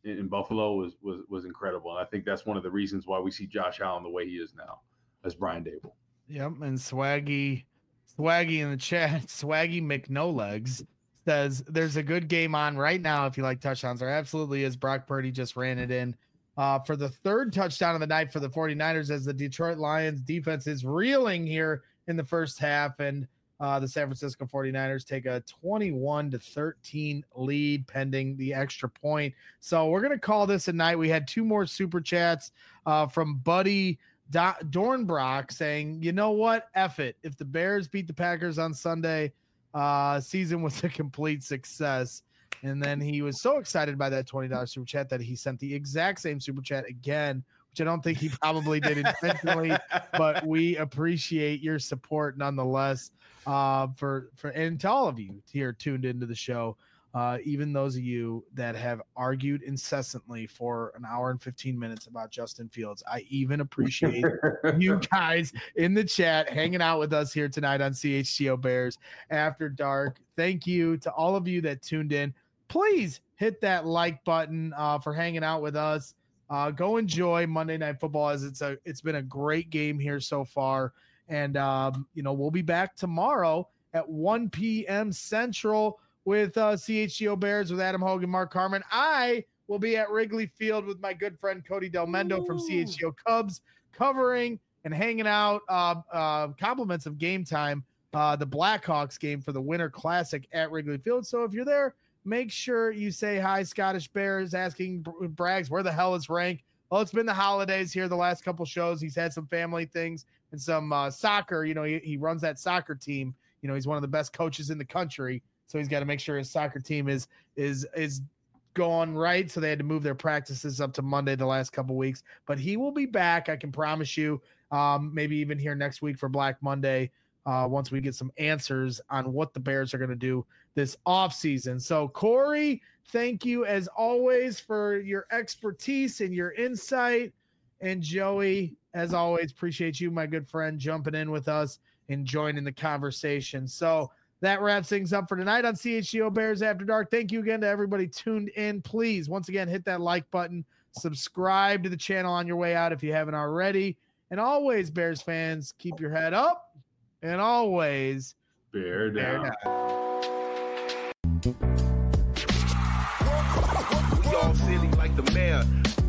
in, in Buffalo was was was incredible. And I think that's one of the reasons why we see Josh Allen the way he is now, as Brian Dable. Yep, and Swaggy, Swaggy in the chat, Swaggy McNolegs says there's a good game on right now if you like touchdowns. There absolutely is. Brock Purdy just ran it in uh, for the third touchdown of the night for the 49ers as the Detroit Lions defense is reeling here in the first half, and uh, the San Francisco 49ers take a twenty-one to thirteen lead pending the extra point. So we're going to call this a night. We had two more super chats uh, from Buddy Do- Dornbrock saying, you know what? F it. If the Bears beat the Packers on Sunday, uh, season was a complete success. And then he was so excited by that twenty dollars super chat that he sent the exact same super chat again, which I don't think he probably did intentionally, but we appreciate your support nonetheless. Uh, for, for, and to all of you here tuned into the show, uh, even those of you that have argued incessantly for an hour and fifteen minutes about Justin Fields. I even appreciate you guys in the chat hanging out with us here tonight on C H G O Bears After Dark. Thank you to all of you that tuned in. Please hit that like button uh, for hanging out with us. Uh, go enjoy Monday Night Football, as it's a it's been a great game here so far. And, um, you know, we'll be back tomorrow at one p.m. Central with uh, C H G O Bears with Adam Hogan, Mark Carmen. I will be at Wrigley Field with my good friend Cody Del Mendo from C H G O Cubs, covering and hanging out. Uh, uh, compliments of Game Time, uh, the Blackhawks game for the Winter Classic at Wrigley Field. So if you're there, make sure you say hi. Scottish Bears asking Braggs, where the hell is Rank? Well, it's been the holidays here the last couple shows. He's had some family things and some uh, soccer. You know, he, he runs that soccer team. You know, he's one of the best coaches in the country. So he's got to make sure his soccer team is is is going right. So they had to move their practices up to Monday the last couple weeks. But he will be back, I can promise you. Um, maybe even here next week for Black Monday, uh, once we get some answers on what the Bears are going to do this offseason. So, Corey, thank you as always for your expertise and your insight. And Joey, as always, appreciate you, my good friend, jumping in with us and joining the conversation. So that wraps things up for tonight on C H G O Bears After Dark. Thank you again to everybody tuned in. Please, once again, hit that like button. Subscribe to the channel on your way out if you haven't already. And always, Bears fans, keep your head up and always bear down. Bear down. We all silly like the mayor.